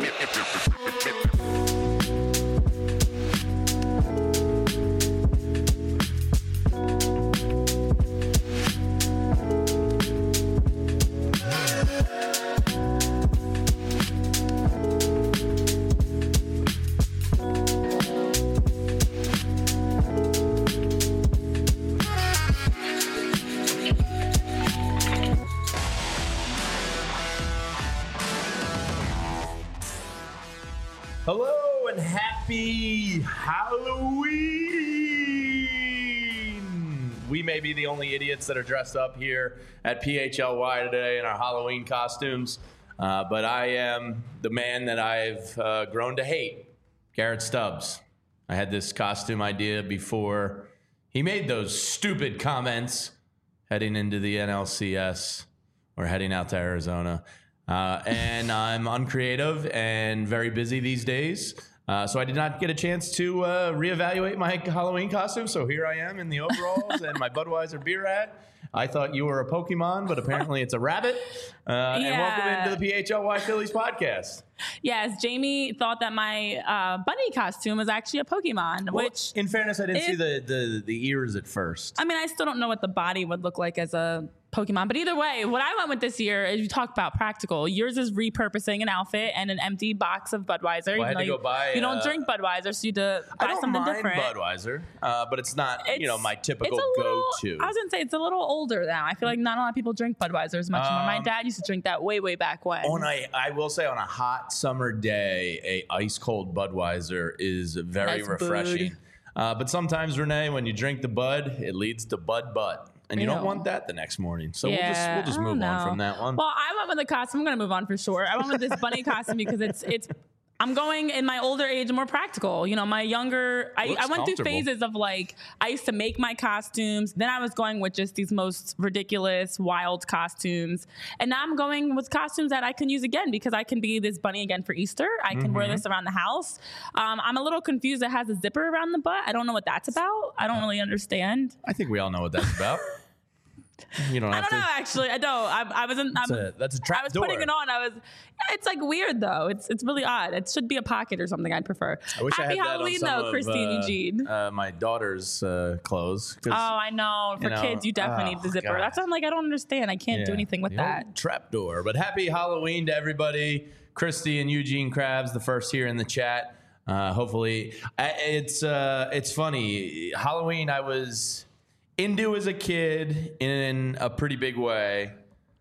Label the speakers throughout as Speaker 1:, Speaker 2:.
Speaker 1: Hello and happy Halloween! We may be the only idiots that are dressed up here at PHLY today in our Halloween costumes, but I am the man that I've grown to hate, Garrett Stubbs. I had this costume idea before he made those stupid comments heading into the NLCS or heading out to Arizona. And I'm uncreative and very busy these days. So I did not get a chance to reevaluate my Halloween costume. So here I am in the overalls and my Budweiser beer hat. I thought you were a Pokemon, but apparently it's a rabbit. And welcome into the PHLY Phillies podcast.
Speaker 2: Yes, Jamie thought that my bunny costume was actually a Pokemon,
Speaker 1: Well,
Speaker 2: which...
Speaker 1: in fairness, I didn't see the ears at first.
Speaker 2: I mean, I still don't know what the body would look like as a Pokemon. But either way, what I went with this year is you talk about practical. Yours is repurposing an outfit and an empty box of Budweiser.
Speaker 1: Well, I had to go buy...
Speaker 2: You don't drink Budweiser, so you had to buy something different.
Speaker 1: I don't mind Budweiser, but it's not, my typical go-to.
Speaker 2: I was going to say, it's a little older now. I feel like not a lot of people drink Budweiser as much anymore. My dad used to drink that way back when.
Speaker 1: I will say, on a hot summer day, a ice-cold Budweiser is very
Speaker 2: nice
Speaker 1: refreshing. But sometimes, Renee, when you drink the Bud, it leads to Bud butt. And you don't want that the next morning. So we'll just move on from that one.
Speaker 2: Well, I went with the costume. I'm going to move on for sure. I went with this bunny costume because it's I'm going in my older age more practical. You know, my younger, I went through phases of like, I used to make my costumes. Then I was going with just these most ridiculous, wild costumes. And now I'm going with costumes that I can use again because I can be this bunny again for Easter. I can wear this around the house. I'm a little confused. It has a zipper around the butt. I don't know what that's about. I don't really understand.
Speaker 1: I think we all know what that's about. You don't have
Speaker 2: I don't know, actually. I don't.
Speaker 1: That's a trap
Speaker 2: I was
Speaker 1: door.
Speaker 2: putting it on. It's like weird though. It's really odd. It should be a pocket or something. I'd prefer.
Speaker 1: I wish
Speaker 2: Happy
Speaker 1: I had
Speaker 2: Halloween
Speaker 1: that on
Speaker 2: though, Christine Eugene.
Speaker 1: my daughter's clothes.
Speaker 2: Oh, I know. For kids, you definitely need the zipper.
Speaker 1: God.
Speaker 2: That's why I'm like, I don't understand. I can't do anything with that.
Speaker 1: Trap door. But happy Halloween to everybody. Christy and Eugene Krabs, the first here in the chat. Hopefully, it's funny. Halloween, I was into as a kid in a pretty big way.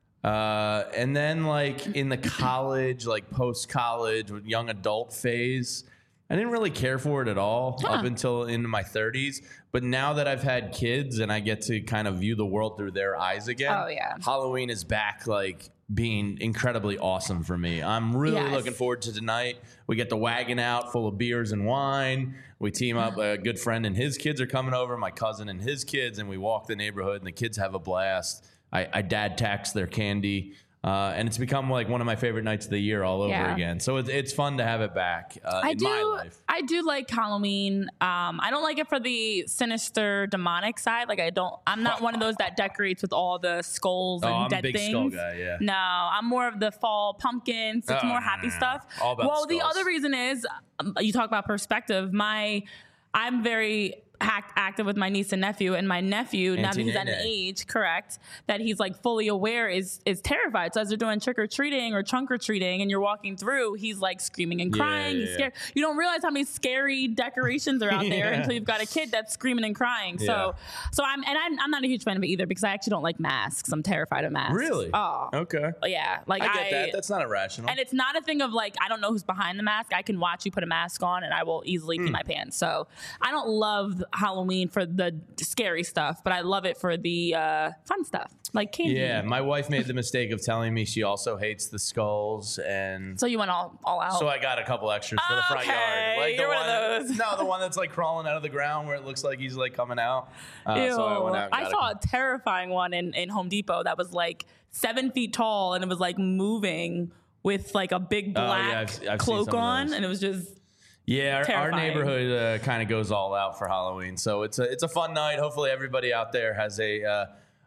Speaker 1: And then like in the college, like post-college, young adult phase, I didn't really care for it at all up until into my 30s. But now that I've had kids and I get to kind of view the world through their eyes again, Halloween is back like being incredibly awesome for me. I'm really looking forward to tonight. We get the wagon out full of beers and wine. We team up. A good friend and his kids are coming over, my cousin and his kids, and we walk the neighborhood and the kids have a blast. I dad tax their candy. And it's become like one of my favorite nights of the year all over again. So it's fun to have it back in my life.
Speaker 2: I do like Halloween. I don't like it for the sinister demonic side. Like I'm not one of those that decorates with all the skulls and dead things.
Speaker 1: I'm a big skull guy, yeah.
Speaker 2: No, I'm more of the fall pumpkins. It's more happy stuff.
Speaker 1: All about
Speaker 2: the
Speaker 1: skulls.
Speaker 2: other reason is you talk about perspective. I'm very active with my niece and nephew, and my nephew, now that he's at an age, correct, that he's like fully aware, is terrified. So as they're doing trick or treating or trunk or treating, and you're walking through, he's like screaming and crying. He's scared. You don't realize how many scary decorations are out there until you've got a kid that's screaming and crying. So I'm not a huge fan of it either because I actually don't like masks. I'm terrified of masks.
Speaker 1: Really?
Speaker 2: Oh,
Speaker 1: okay.
Speaker 2: Yeah, like
Speaker 1: I get that. That's not irrational.
Speaker 2: And it's not a thing of like I don't know who's behind the mask. I can watch you put a mask on, and I will easily pee my pants. So I don't love Halloween for the scary stuff, but I love it for the fun stuff like candy.
Speaker 1: Yeah, my wife made the mistake of telling me she also hates the skulls, and
Speaker 2: so you went all out.
Speaker 1: So I got a couple extras for the front yard. Like
Speaker 2: you're one of those.
Speaker 1: No, the one that's like crawling out of the ground where it looks like he's like coming out.
Speaker 2: Ew.
Speaker 1: So I went out.
Speaker 2: I saw a terrifying one in Home Depot that was like 7 feet tall, and it was like moving with like a big black
Speaker 1: I've
Speaker 2: cloak on, and it was just.
Speaker 1: Yeah, our neighborhood kind of goes all out for Halloween, so it's a fun night. Hopefully, everybody out there has a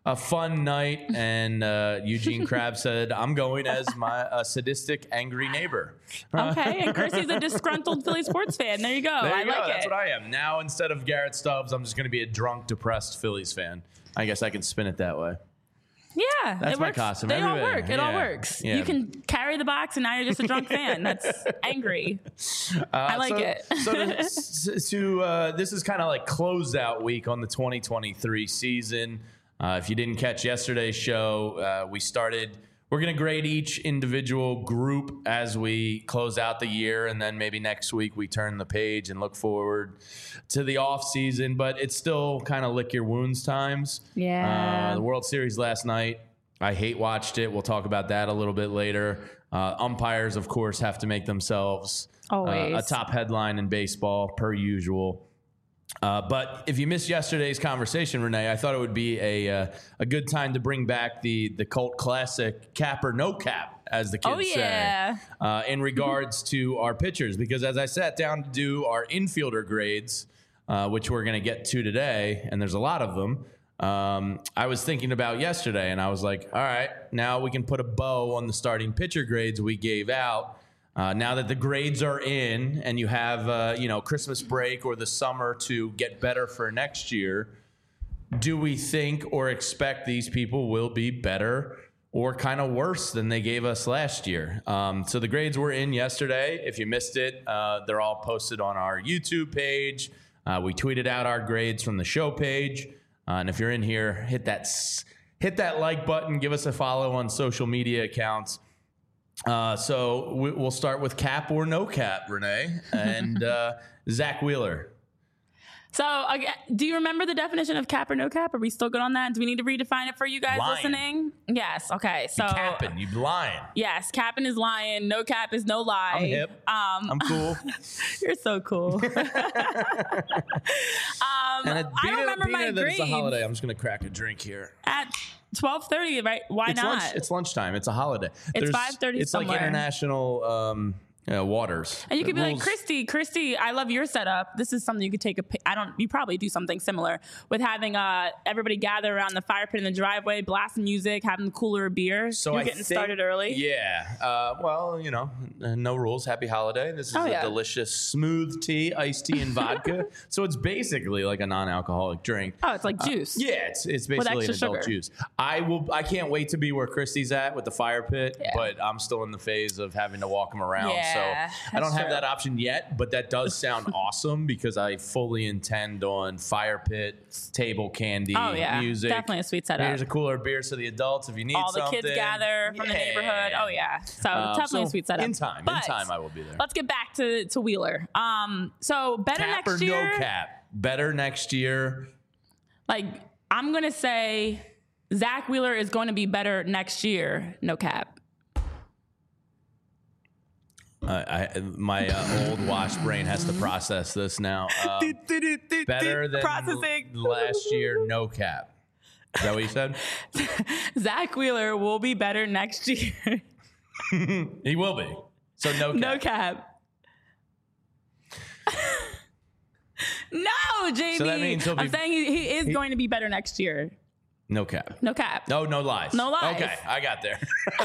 Speaker 1: a fun night, and Eugene Krabs said, "I'm going as my sadistic, angry neighbor."
Speaker 2: Okay, and Christy's a disgruntled Philly sports fan. There you go.
Speaker 1: There you go.
Speaker 2: Like
Speaker 1: That's
Speaker 2: it.
Speaker 1: what I am now. Instead of Garrett Stubbs, I'm just going to be a drunk, depressed Phillies fan. I guess I can spin it that way.
Speaker 2: Yeah,
Speaker 1: That's
Speaker 2: it
Speaker 1: my
Speaker 2: works.
Speaker 1: costume.
Speaker 2: They all
Speaker 1: Everybody-
Speaker 2: work. It all works.
Speaker 1: yeah.
Speaker 2: You can carry the box, and now you're just a drunk fan. That's angry. I like it.
Speaker 1: This is kind of like closeout week on the 2023 season. If you didn't catch yesterday's show, we're going to grade each individual group as we close out the year, and then maybe next week we turn the page and look forward to the off season. But it's still kind of lick your wounds times.
Speaker 2: Yeah.
Speaker 1: The World Series last night, I hate watched it. We'll talk about that a little bit later. Umpires, of course, have to make themselves
Speaker 2: Always
Speaker 1: a top headline in baseball, per usual. But if you missed yesterday's conversation, Renee, I thought it would be a good time to bring back the cult classic cap or no cap, as the kids say, in regards to our pitchers. Because as I sat down to do our infielder grades, which we're going to get to today, and there's a lot of them, I was thinking about yesterday, and I was like, all right, now we can put a bow on the starting pitcher grades we gave out. Now that the grades are in and you have, Christmas break or the summer to get better for next year, do we think or expect these people will be better or kind of worse than they gave us last year? So the grades were in yesterday. If you missed it, they're all posted on our YouTube page. We tweeted out our grades from the show page. And if you're in here, hit that like button, give us a follow on social media accounts. So we'll start with cap or no cap, Renee, and Zach Wheeler.
Speaker 2: So, do you remember the definition of cap or no cap? Are we still good on that? Do we need to redefine it for you guys listening? Yes. Okay. So
Speaker 1: you capping, you lying.
Speaker 2: Yes, capping is lying. No cap is no lie.
Speaker 1: I'm hip. I'm cool.
Speaker 2: You're so cool. I don't remember my grades.
Speaker 1: It's a holiday. I'm just gonna crack a drink here
Speaker 2: At 12:30, right? Why not?
Speaker 1: It's lunchtime. It's a holiday.
Speaker 2: It's 5:30
Speaker 1: It's
Speaker 2: somewhere.
Speaker 1: like international waters.
Speaker 2: And you could be like, Christy, I love your setup. This is something you could take you probably do something similar with having everybody gather around the fire pit in the driveway, blasting music, having the cooler of beer.
Speaker 1: So
Speaker 2: You're getting started early.
Speaker 1: Yeah. Well, no rules. Happy holiday. This is a delicious smooth tea, iced tea and vodka. So it's basically like a non-alcoholic drink.
Speaker 2: Oh, it's like juice.
Speaker 1: Yeah, it's basically an adult
Speaker 2: sugar.
Speaker 1: juice. I can't wait to be where Christy's at with the fire pit, but I'm still in the phase of having to walk him around.
Speaker 2: Yeah.
Speaker 1: So I don't have that option yet, but that does sound awesome because I fully intend on fire pit, table candy, music.
Speaker 2: Definitely a sweet setup.
Speaker 1: Here's a cooler beer so the adults if you need
Speaker 2: all
Speaker 1: something.
Speaker 2: the kids gather from the neighborhood. Oh yeah, so definitely a sweet setup.
Speaker 1: In time I will be there.
Speaker 2: Let's get back to Wheeler. So better
Speaker 1: cap
Speaker 2: next
Speaker 1: or
Speaker 2: year.
Speaker 1: No cap. Better next year.
Speaker 2: Like I'm gonna say, Zach Wheeler is going to be better next year. No cap.
Speaker 1: My old washed brain has to process this now. Better than
Speaker 2: processing
Speaker 1: last year, no cap. Is that what you said?
Speaker 2: Zach Wheeler will be better next year.
Speaker 1: He will be. So no cap.
Speaker 2: No cap. No, JB.
Speaker 1: So that means
Speaker 2: I'm saying he is going to be better next year.
Speaker 1: No cap.
Speaker 2: No cap.
Speaker 1: No lies.
Speaker 2: No lies.
Speaker 1: Okay, I got there.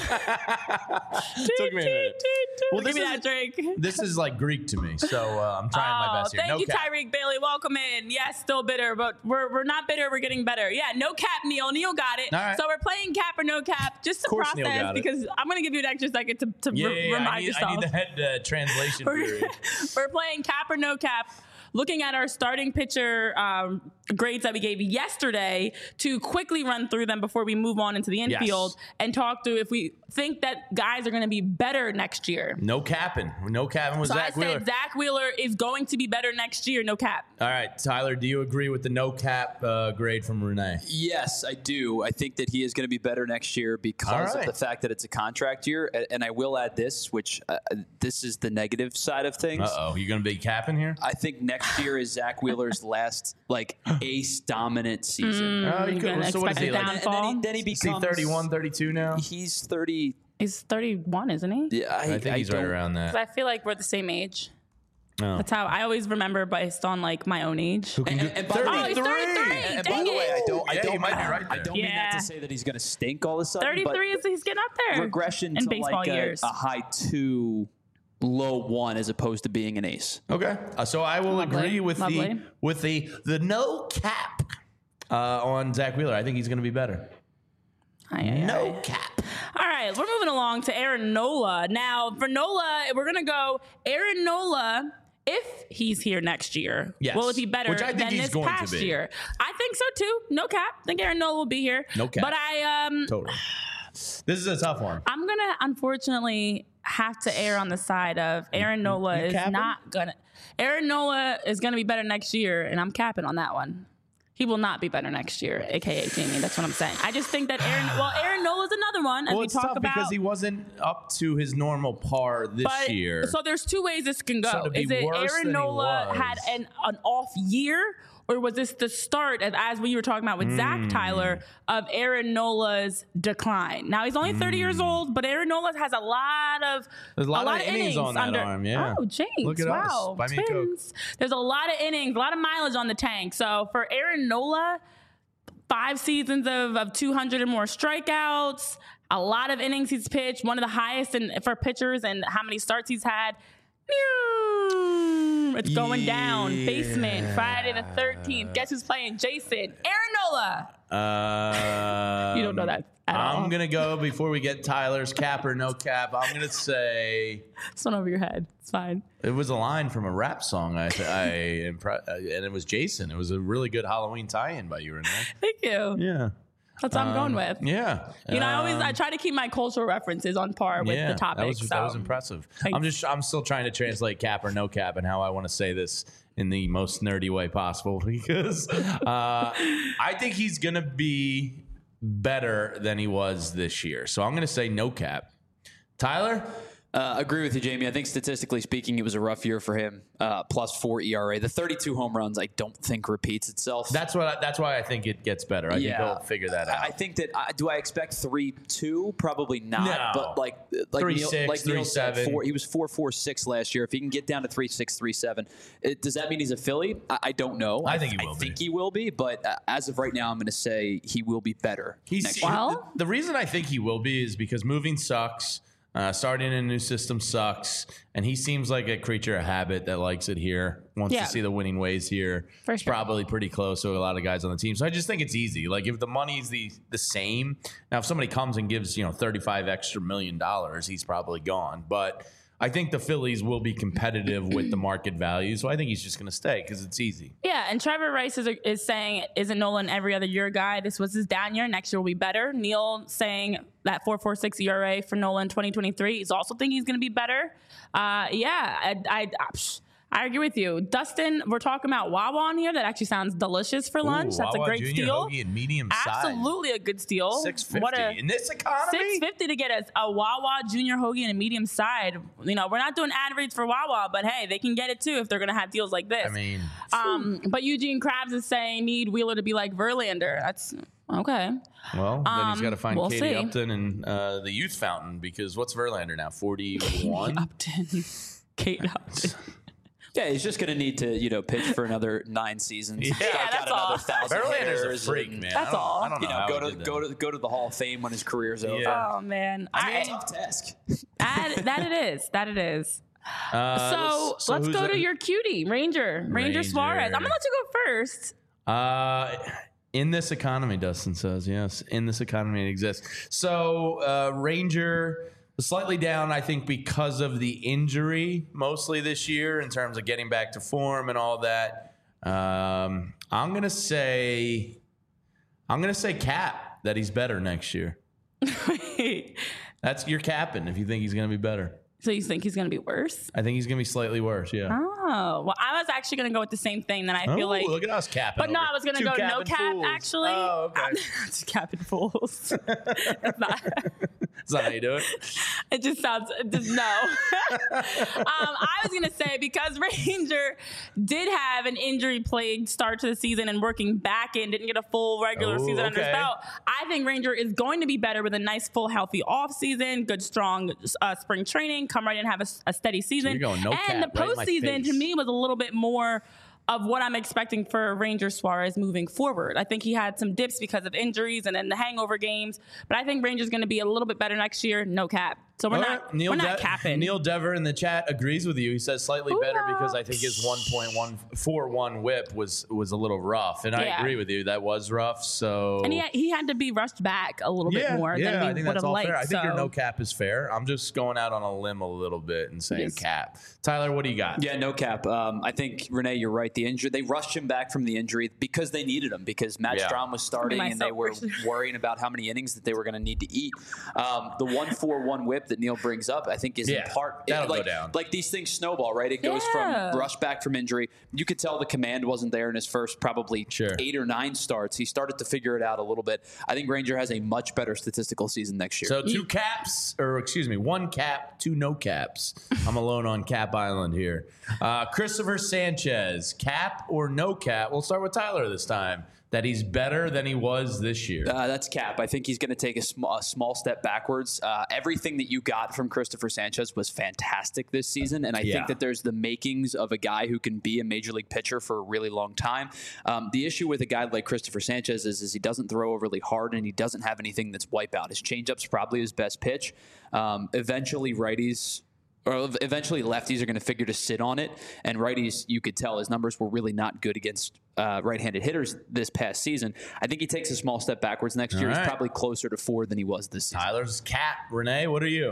Speaker 1: Took me a minute.
Speaker 2: Well, give me that drink.
Speaker 1: This is like Greek to me, so I'm trying my best here.
Speaker 2: Thank you, Tyreek Bailey. Welcome in. Yes, still bitter, but we're not bitter. We're getting better. Yeah, no cap, Neil. Neil got it.
Speaker 1: All right.
Speaker 2: So we're playing cap or no cap just to process because I'm going to give you an extra second to remind yourself.
Speaker 1: I need the head translation period.
Speaker 2: We're playing cap or no cap. Looking at our starting pitcher grades that we gave yesterday to quickly run through them before we move on into the infield and talk through if we think that guys are going to be better next year.
Speaker 1: No capping. No capping with Zach Wheeler.
Speaker 2: I said Zach Wheeler is going to be better next year. No cap.
Speaker 1: All right, Tyler, do you agree with the no cap grade from Renee?
Speaker 3: Yes, I do. I think that he is going to be better next year because of the fact that it's a contract year. And I will add this, which this is the negative side of things.
Speaker 1: Uh-oh, you going to be capping here?
Speaker 3: I think next year is Zach Wheeler's last ace dominant season.
Speaker 2: You can expect a downfall.
Speaker 3: And then he becomes
Speaker 1: 31, 32 now.
Speaker 3: He's 30.
Speaker 2: He's 31, isn't he?
Speaker 3: Yeah,
Speaker 1: I think he's right around that.
Speaker 2: I feel like we're the same age. Oh. That's how I always remember based on like my own age.
Speaker 3: And by
Speaker 2: 33. He's 33.
Speaker 3: And by the way, I don't
Speaker 1: might be right there.
Speaker 3: I don't mean that to say that he's going to stink all of a sudden.
Speaker 2: 33 is he's getting up there.
Speaker 3: Regression in to
Speaker 2: baseball
Speaker 3: like
Speaker 2: years.
Speaker 3: A high 2, low 1 as opposed to being an ace.
Speaker 1: Okay, so I will agree with the no cap on Zach Wheeler. I think he's going to be better. No cap.
Speaker 2: All right, we're moving along to Aaron Nola. Now, for Nola, we're going to go Aaron Nola if he's here next year.
Speaker 1: Yes.
Speaker 2: Will it be better than this past year? I think so, too. No cap. I think Aaron Nola will be here.
Speaker 1: No cap.
Speaker 2: But
Speaker 1: Totally. This is a tough one.
Speaker 2: I'm going to, unfortunately, have to err on the side of Aaron Nola is not going to. Aaron Nola is going to be better next year, and I'm capping on that one. He will not be better next year, a.k.a. Jamie. That's what I'm saying. I just think that Aaron Nola's another one. As
Speaker 1: it's tough because he wasn't up to his normal par this year.
Speaker 2: So there's two ways this can go.
Speaker 1: So is it
Speaker 2: Aaron Nola had an off year? Or was this the start, as we were talking about with Zach Tyler, of Aaron Nola's decline? Now, he's only 30 years old, but Aaron Nola has a lot of innings
Speaker 1: on that arm, yeah.
Speaker 2: Oh, James,
Speaker 1: look at
Speaker 2: wow.
Speaker 1: us. Buy me a Coke.
Speaker 2: There's a lot of innings, a lot of mileage on the tank. So for Aaron Nola, 5 seasons of 200 and more strikeouts, a lot of innings he's pitched, one of the highest for pitchers and how many starts he's had. It's going down. Basement, Friday the 13th. Guess who's playing? Jason. Aaron Nola. You don't know that at all.
Speaker 1: I'm going to go before we get Tyler's cap or no cap. I'm going to say...
Speaker 2: It's one over your head. It's fine.
Speaker 1: It was a line from a rap song, and it was Jason. It was a really good Halloween tie-in by you, Renee.
Speaker 2: Thank you.
Speaker 1: Yeah.
Speaker 2: That's what I'm going with.
Speaker 1: Yeah.
Speaker 2: You know, I try to keep my cultural references on par with the topic.
Speaker 1: That was impressive. Thanks. I'm still trying to translate cap or no cap and how I want to say this in the most nerdy way possible because I think he's going to be better than he was this year. So I'm going to say no cap. Tyler?
Speaker 3: Agree with you, Jamie. I think statistically speaking, it was a rough year for him. +4 ERA. The 32 home runs, I don't think repeats itself.
Speaker 1: That's why I think it gets better. I think he'll figure that out.
Speaker 3: I think that. Do I expect 3.2? Probably not.
Speaker 1: No.
Speaker 3: But like
Speaker 1: 3.6,
Speaker 3: Neil said,
Speaker 1: 3.7.
Speaker 3: he was 4.46 last year. If he can get down to 3.6, 3.7, does that mean he's a Philly? I don't know.
Speaker 1: I think he will.
Speaker 3: I think he will be. But as of right now, I'm going to say he will be better.
Speaker 1: The reason I think he will be is because moving sucks. Starting in a new system sucks, and he seems like a creature of habit that likes it here, wants to see the winning ways here. He's probably pretty close to a lot of guys on the team. So I just think it's easy. Like if the money's the same, now if somebody comes and gives $35 extra million, he's probably gone. But I think the Phillies will be competitive with the market value, so I think he's just going to stay because it's easy.
Speaker 2: Yeah, and Trevor Rice is saying, isn't Nolan every other year guy? This was his down year. Next year will be better. Neil saying that 4.46 ERA for Nolan 2023. He's also thinking he's going to be better. I agree with you. Dustin, we're talking about Wawa on here. That actually sounds delicious for lunch. That's
Speaker 1: Wawa
Speaker 2: a great
Speaker 1: Junior
Speaker 2: steal.
Speaker 1: Hoagie and medium size.
Speaker 2: Absolutely a good steal.
Speaker 1: $6.50 in this economy?
Speaker 2: $6.50 to get a Wawa Junior Hoagie and a medium side. We're not doing ad reads for Wawa, but hey, they can get it too if they're going to have deals like this.
Speaker 1: I mean,
Speaker 2: but Eugene Krabs is saying need Wheeler to be like Verlander. That's okay.
Speaker 1: Well, then he's got to find Katie Upton and the Youth Fountain because what's Verlander now? 41?
Speaker 2: Kate Upton.
Speaker 3: Yeah, he's just going to need to, pitch for another 9 seasons.
Speaker 2: Yeah, that's all.
Speaker 1: Verlander's a freak, man.
Speaker 2: That's all.
Speaker 1: I don't know.
Speaker 3: Go to the Hall of Fame when his career's over.
Speaker 2: Yeah. Oh man,
Speaker 3: a tough task.
Speaker 2: That it is. So let's go to your cutie, Ranger Suarez. I'm gonna let you go first.
Speaker 1: In this economy, Dustin says, yes. In this economy, it exists. So Ranger. Slightly down, I think, because of the injury mostly this year in terms of getting back to form and all that. I'm gonna say cap that he's better next year. That's your capping if you think he's gonna be better.
Speaker 2: So you think he's gonna be worse?
Speaker 1: I think he's gonna be slightly worse. Yeah.
Speaker 2: Oh well, I was actually gonna go with the same thing. Then I feel like
Speaker 1: look at us capping.
Speaker 2: But no, I was gonna go no cap. Fools. Actually,
Speaker 1: oh, okay.
Speaker 2: Just capping fools. That's not.
Speaker 1: Is that how you do it?
Speaker 2: It just sounds, no. I was going to say, because Ranger did have an injury-plagued start to the season and working back in, didn't get a full regular season under his belt, I think Ranger is going to be better with a nice, full, healthy offseason, good, strong spring training, come right in and have a steady season.
Speaker 1: So you're going no cap,
Speaker 2: and the postseason,
Speaker 1: right
Speaker 2: to me, was a little bit more of what I'm expecting for Ranger Suarez moving forward. I think he had some dips because of injuries and then the hangover games, but I think Ranger's going to be a little bit better next year, no cap. So we're not capping.
Speaker 1: Neil Dever in the chat agrees with you. He says slightly better because I think his 1.141 whip was a little rough, and I agree with you. That was rough. So
Speaker 2: and he had to be rushed back a little bit more than we would have liked.
Speaker 1: Fair. I think your no cap is fair. I'm just going out on a limb a little bit and saying cap. Tyler, what do you got?
Speaker 3: Yeah, no cap. I think Renee, you're right. The injury, they rushed him back from the injury because they needed him, because Matt Strahm was starting and they were worrying about how many innings that they were going to need to eat. The 1.41 whip that Neil brings up, I think, is in part
Speaker 1: go down.
Speaker 3: Like these things snowball, right? It goes from rush back from injury. You could tell the command wasn't there in his first probably 8 or 9 starts. He started to figure it out a little bit. I think Ranger has a much better statistical season next year.
Speaker 1: So 1 cap, 2 no caps. I'm alone on Cap Island here. Christopher Sanchez, cap or no cap? We'll start with Tyler this time. That he's better than he was this year.
Speaker 3: That's cap. I think he's going to take a small step backwards. Everything that you got from Christopher Sanchez was fantastic this season, and I think that there's the makings of a guy who can be a major league pitcher for a really long time. The issue with a guy like Christopher Sanchez is he doesn't throw overly hard, and he doesn't have anything that's wipeout. His changeup's probably his best pitch. Eventually lefties are going to figure to sit on it, and righties, you could tell his numbers were really not good against right-handed hitters this past season. I think he takes a small step backwards next year. He's probably closer to 4 than he was this season.
Speaker 1: Tyler's cap. Renee, what are you?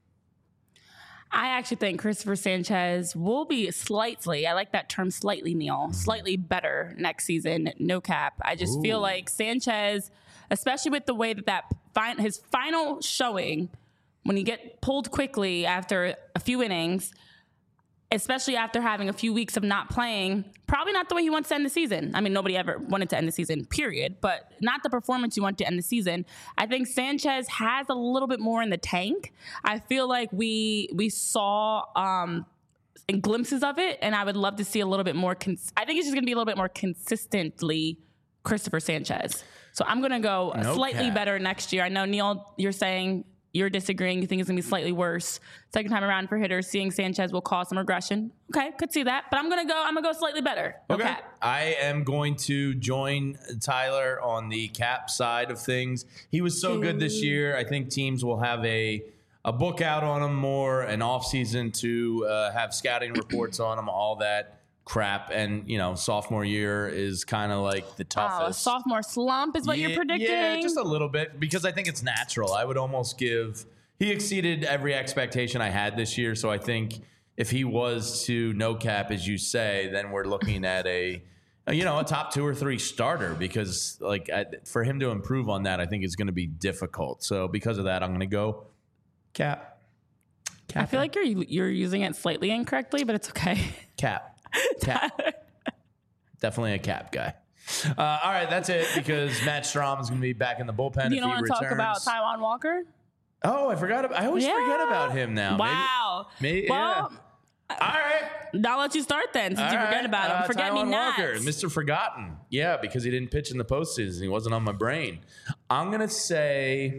Speaker 2: I actually think Christopher Sanchez will be slightly, I like that term slightly, Neil, slightly better next season, no cap. I just feel like Sanchez, especially with the way that his final showing, when you get pulled quickly after a few innings, especially after having a few weeks of not playing, probably not the way he wants to end the season. I mean, nobody ever wanted to end the season, period, but not the performance you want to end the season. I think Sanchez has a little bit more in the tank. I feel like we saw glimpses of it, and I would love to see a little bit more. I think it's just going to be a little bit more consistently Christopher Sanchez. So I'm going to go slightly better next year. I know, Neil, you're saying you're disagreeing. You think it's going to be slightly worse. Second time around for hitters, seeing Sanchez will cause some regression. Okay, could see that. But I'm going to go slightly better. Okay.
Speaker 1: I am going to join Tyler on the cap side of things. He was so good this year. I think teams will have a book out on him more, an offseason to have scouting reports on him, all that crap. And, sophomore year is kind of like the toughest.
Speaker 2: Sophomore slump is what you're predicting?
Speaker 1: Yeah, just a little bit, because I think it's natural. I would almost he exceeded every expectation I had this year. So I think if he was to no cap, as you say, then we're looking at a top 2 or 3 starter, because for him to improve on that, I think is going to be difficult. So because of that, I'm going to go cap.
Speaker 2: I feel like you're using it slightly incorrectly, but it's okay.
Speaker 1: Cap. Definitely a cap guy. All right, that's it, because Matt Strahm is going to be back in the bullpen.
Speaker 2: You don't want to talk about Taijuan Walker?
Speaker 1: Oh, I forgot. I always forget about him now.
Speaker 2: Wow.
Speaker 1: Maybe all right.
Speaker 2: I'll let you start then, since you forget about him. Forget
Speaker 1: Taijuan
Speaker 2: me not.
Speaker 1: Walker, Mr. Forgotten. Yeah, because he didn't pitch in the postseason. He wasn't on my brain. I'm going to say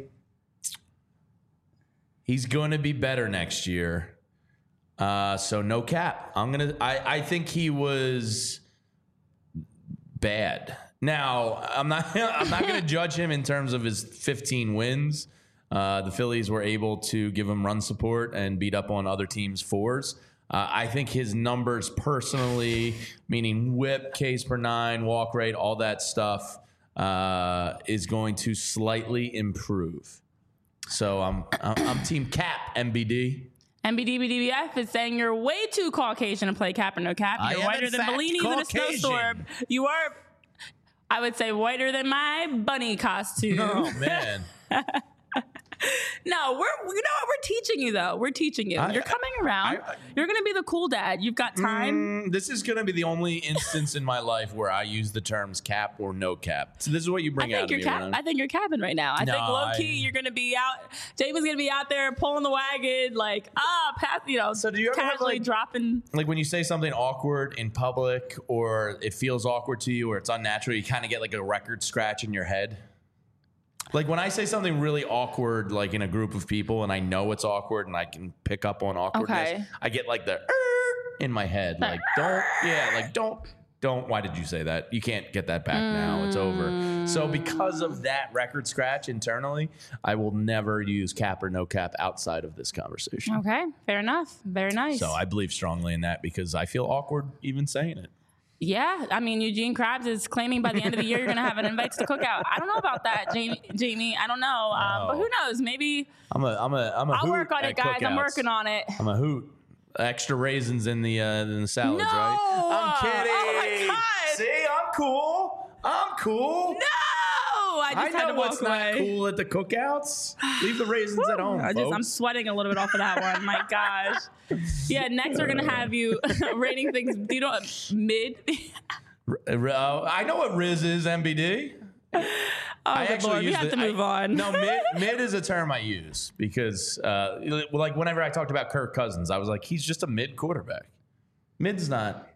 Speaker 1: he's going to be better next year. So no cap. I think he was bad. Now, I'm not going to judge him in terms of his 15 wins. The Phillies were able to give him run support and beat up on other teams' 4s. I think his numbers personally, meaning whip, Ks per 9, walk rate, all that stuff, is going to slightly improve. So I'm team cap, MBD.
Speaker 2: MBDBDBF is saying you're way too Caucasian to play cap or no cap. You're whiter than Bellinis in a snowstorm. You are, I would say, whiter than my bunny costume.
Speaker 1: Oh, man.
Speaker 2: No, we're teaching you though. We're teaching you. You're coming around. You're gonna be the cool dad. You've got time.
Speaker 1: This is gonna be the only instance in my life where I use the terms cap or no cap. So this is what you bring out of me.
Speaker 2: I think you're capping right now. I think low key you're gonna be out. Jamie's gonna be out there pulling the wagon, like pass. So do you ever casually dropping?
Speaker 1: Like when you say something awkward in public, or it feels awkward to you, or it's unnatural, you kind of get like a record scratch in your head. Like when I say something really awkward, like in a group of people, and I know it's awkward, and I can pick up on awkwardness, I get like the in my head, like don't. Why did you say that? You can't get that back now. It's over. So because of that record scratch internally, I will never use cap or no cap outside of this conversation.
Speaker 2: Okay, fair enough. Very nice.
Speaker 1: So I believe strongly in that because I feel awkward even saying it.
Speaker 2: Yeah, I mean, Eugene Krabs is claiming by the end of the year you're going to have an invite to the cookout. I don't know about that, Jamie. I don't know, but who knows? Maybe
Speaker 1: I'll
Speaker 2: work on it, guys. I'm working on it.
Speaker 1: I'm a hoot. Extra raisins in the salads,
Speaker 2: no!
Speaker 1: right? I'm kidding.
Speaker 2: Oh my God.
Speaker 1: See, I'm cool.
Speaker 2: No! I just had to walk away.
Speaker 1: Not cool at the cookouts. Leave the raisins at home, folks.
Speaker 2: I'm sweating a little bit off of that one. My gosh. Yeah, next we're going to have you rating things. Do you know what mid?
Speaker 1: I know what Riz is, MBD.
Speaker 2: I actually we have to move on.
Speaker 1: No, mid is a term I use because, like, whenever I talked about Kirk Cousins, I was like, he's just a mid quarterback. Mid's not.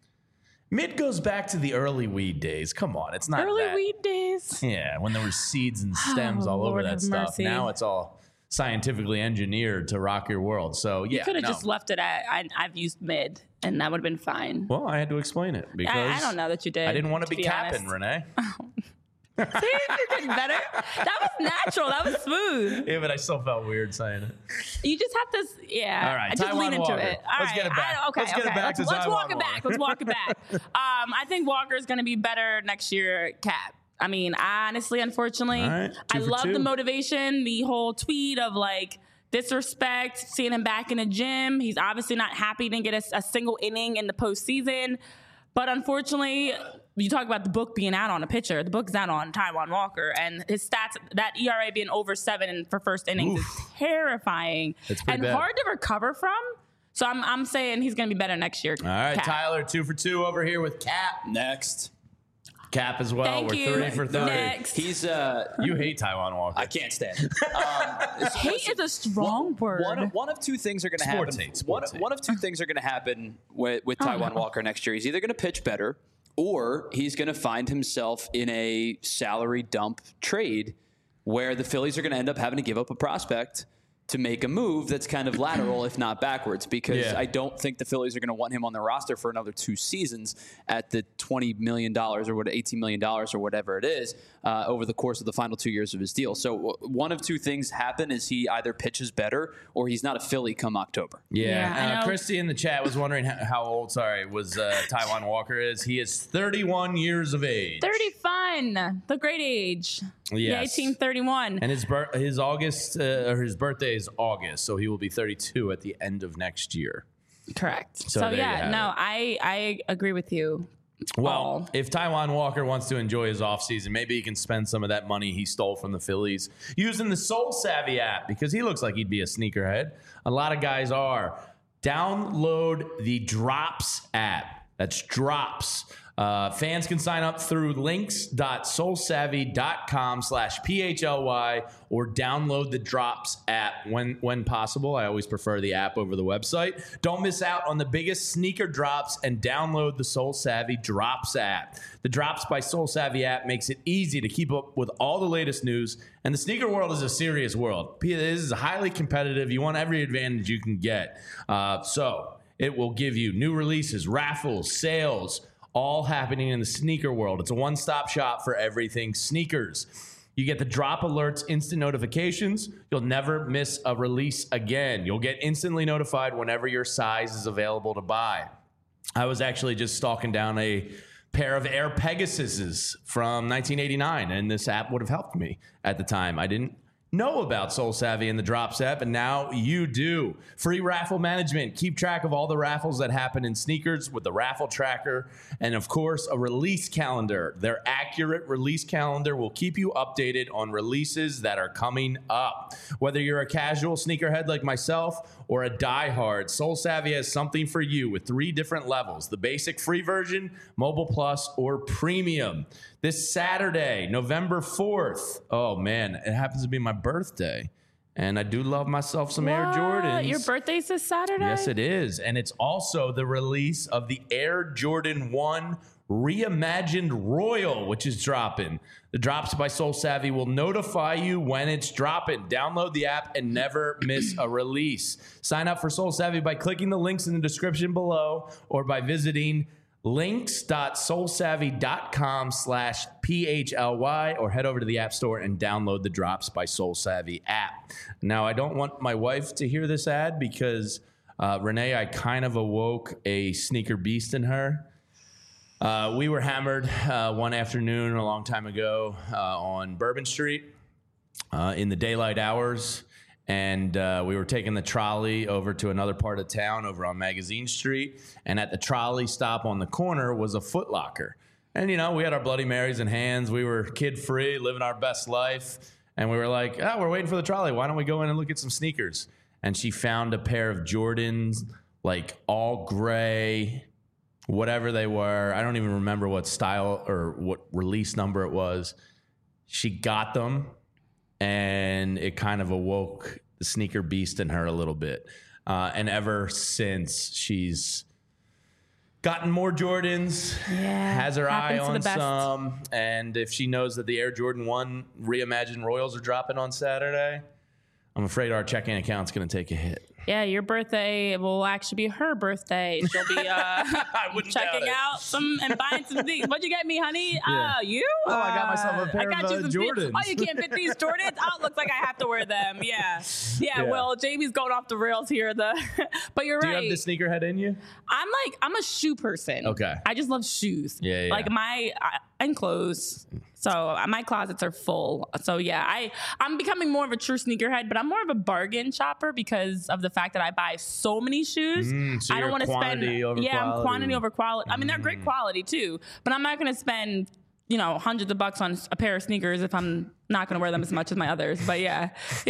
Speaker 1: Mid goes back to the early weed days. Come on, it's not
Speaker 2: early weed days.
Speaker 1: Yeah, when there were seeds and stems all over that stuff. Mercy. Now it's all scientifically engineered to rock your world. So yeah,
Speaker 2: you could have just left it at I've used mid, and that would have been fine.
Speaker 1: Well, I had to explain it because
Speaker 2: I don't know that you did.
Speaker 1: I didn't want to be capping, Renee.
Speaker 2: See, you're getting better. That was natural. That was smooth.
Speaker 1: Yeah, but I still felt weird saying it.
Speaker 2: You just have to, yeah.
Speaker 1: All right,
Speaker 2: just
Speaker 1: Taiwan
Speaker 2: lean into
Speaker 1: Walker.
Speaker 2: it. All
Speaker 1: Let's get it back.
Speaker 2: Okay,
Speaker 1: let's get it back to
Speaker 2: Let's walk it
Speaker 1: Walker.
Speaker 2: back. Let's walk it back. I think Walker's going to be better next year, Cap. I mean, honestly, unfortunately,
Speaker 1: right,
Speaker 2: I love the motivation, the whole tweet of like disrespect, seeing him back in the gym. He's obviously not happy, didn't get a single inning in the postseason. But unfortunately, you talk about the book being out on a pitcher. The book's out on Taiwan Walker, and his stats, that ERA being over 7 for first innings is terrifying and
Speaker 1: bad.
Speaker 2: hard to recover from. So I'm saying he's going to be better next year.
Speaker 1: All right,
Speaker 2: Cap.
Speaker 1: Tyler, 2 for 2 over here with Cap.
Speaker 3: Next.
Speaker 1: Cap as well.
Speaker 2: Thank
Speaker 1: We're
Speaker 2: you.
Speaker 1: 3 for 3.
Speaker 2: Next.
Speaker 3: He's
Speaker 1: you hate Taiwan Walker.
Speaker 3: I can't stand him.
Speaker 2: Hate is a strong word.
Speaker 3: One of two things are going to happen. One of two things are going to happen with Taiwan Walker next year. He's either going to pitch better, or he's going to find himself in a salary dump trade where the Phillies are going to end up having to give up a prospect to make a move that's kind of lateral, if not backwards, because I don't think the Phillies are going to want him on their roster for another 2 seasons at the $20 million or $18 million or whatever it is over the course of the final 2 years of his deal. So one of two things happen is he either pitches better or he's not a Philly come October.
Speaker 2: Yeah,
Speaker 1: Christy in the chat was wondering how old, Taiwan Walker is. He is 31 years of age.
Speaker 2: 30 fun. The great age.
Speaker 1: Yes.
Speaker 2: Yeah, 1831.
Speaker 1: And his birthday is August, so he will be 32 at the end of next year.
Speaker 2: Correct. So I agree with you.
Speaker 1: Well, if Taiwan Walker wants to enjoy his offseason, maybe he can spend some of that money he stole from the Phillies using the Soul Savvy app because he looks like he'd be a sneakerhead. A lot of guys are. Download the Drops app. That's Drops. Fans can sign up through links.soulsavvy.com/PHLY or download the Drops app when possible. I always prefer the app over the website. Don't miss out on the biggest sneaker drops and download the Soul Savvy Drops app. The Drops by Soul Savvy app makes it easy to keep up with all the latest news, and the sneaker world is a serious world. This is highly competitive. You want every advantage you can get. So it will give you new releases, raffles, sales, all happening in the sneaker world. It's a one-stop shop for everything sneakers. You get the drop alerts, instant notifications. You'll never miss a release again. You'll get instantly notified whenever your size is available to buy. I was actually just stalking down a pair of Air Pegasuses from 1989, and this app would have helped me at the time. I didn't know about Soul Savvy and the Drops app, and now you do. Free raffle management. Keep track of all the raffles that happen in sneakers with the raffle tracker, and of course, a release calendar. Their accurate release calendar will keep you updated on releases that are coming up. Whether you're a casual sneakerhead like myself or a diehard, Soul Savvy has something for you with 3 different levels: the basic free version, Mobile Plus, or Premium. This Saturday, November 4th. Oh, man, it happens to be my birthday. And I do love myself some Air Jordans.
Speaker 2: Your birthday's this Saturday?
Speaker 1: Yes, it is. And it's also the release of the Air Jordan 1 Reimagined Royal, which is dropping. The Drops by Soul Savvy will notify you when it's dropping. Download the app and never miss a release. Sign up for Soul Savvy by clicking the links in the description below or by visiting links.soulsavvy.com/PHLY or head over to the App Store and download the Drops by Soul Savvy app. Now, I don't want my wife to hear this ad because, Renee, I kind of awoke a sneaker beast in her. We were hammered one afternoon a long time ago on Bourbon Street in the daylight hours. And we were taking the trolley over to another part of town over on Magazine Street. And at the trolley stop on the corner was a Foot Locker. And, you know, we had our Bloody Marys in hands. We were kid-free, living our best life. And we were like, we're waiting for the trolley. Why don't we go in and look at some sneakers? And she found a pair of Jordans, like all gray, whatever they were. I don't even remember what style or what release number it was. She got them. And it kind of awoke the sneaker beast in her a little bit. And ever since, she's gotten more Jordans, has her eye on some. And if she knows that the Air Jordan 1 Reimagined Royals are dropping on Saturday, I'm afraid our checking account's going to take a hit.
Speaker 2: Yeah, your birthday will actually be her birthday. She'll be checking out some and buying some things. What'd you get me, honey?
Speaker 1: Yeah.
Speaker 2: You?
Speaker 1: I got myself a pair of Jordans.
Speaker 2: Oh, you can't fit these Jordans? Oh, it looks like I have to wear them. Yeah. Well, Jamie's going off the rails here. But you're right.
Speaker 1: Do you have the sneakerhead in you?
Speaker 2: I'm a shoe person.
Speaker 1: Okay.
Speaker 2: I just love shoes.
Speaker 1: Yeah.
Speaker 2: Like and clothes. So my closets are full. So yeah, I'm becoming more of a true sneakerhead, but I'm more of a bargain shopper because of the fact that I buy so many shoes.
Speaker 1: So
Speaker 2: I don't want to spend. I'm quantity over quality. I mean, they're great quality too, but I'm not going to spend hundreds of bucks on a pair of sneakers if I'm not going to wear them as much as my others. But yeah.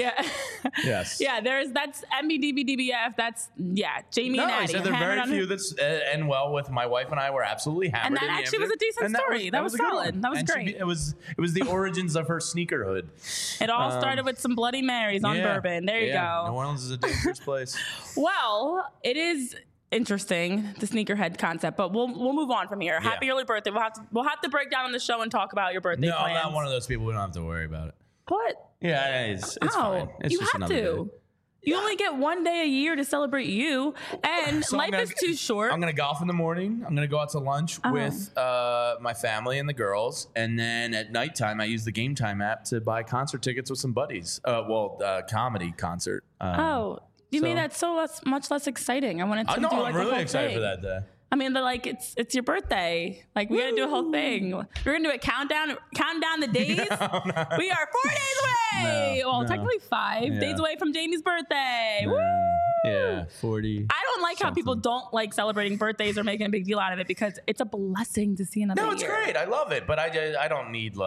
Speaker 1: Yes.
Speaker 2: Yeah, that's MBDBDBF. That's Jamie and Addie.
Speaker 1: I said there are very few that's and well with my wife and I were absolutely hammered.
Speaker 2: And that actually was a decent story. That was solid. That was great.
Speaker 1: It was the origins of her sneakerhood.
Speaker 2: It all started with some Bloody Marys on bourbon. There you go.
Speaker 1: New Orleans is a dangerous place.
Speaker 2: Well, it is interesting, the sneakerhead concept, but we'll move on from here. Happy early birthday. We'll have to break down on the show and talk about your birthday plans.
Speaker 1: I'm not one of those people. We don't have to worry about it.
Speaker 2: What?
Speaker 1: Yeah, it's fine. It's
Speaker 2: you
Speaker 1: just
Speaker 2: have
Speaker 1: another
Speaker 2: to.
Speaker 1: day.
Speaker 2: You only get one day a year to celebrate you, and life is too short.
Speaker 1: I'm going to golf in the morning. I'm going to go out to lunch with my family and the girls, and then at nighttime, I use the Game Time app to buy concert tickets with some buddies. Comedy concert.
Speaker 2: You made that so much less exciting. I wanted to do
Speaker 1: I'm really excited for that day.
Speaker 2: I mean, it's your birthday. Like, we got to do a whole thing. We're going to do a countdown the days. No. We are 4 days away. Technically 5 days away from Jamie's birthday. Woo!
Speaker 1: Yeah, 40.
Speaker 2: I don't like how people don't like celebrating birthdays or making a big deal out of it because it's a blessing to see another year.
Speaker 1: No, it's great. I love it. But I don't need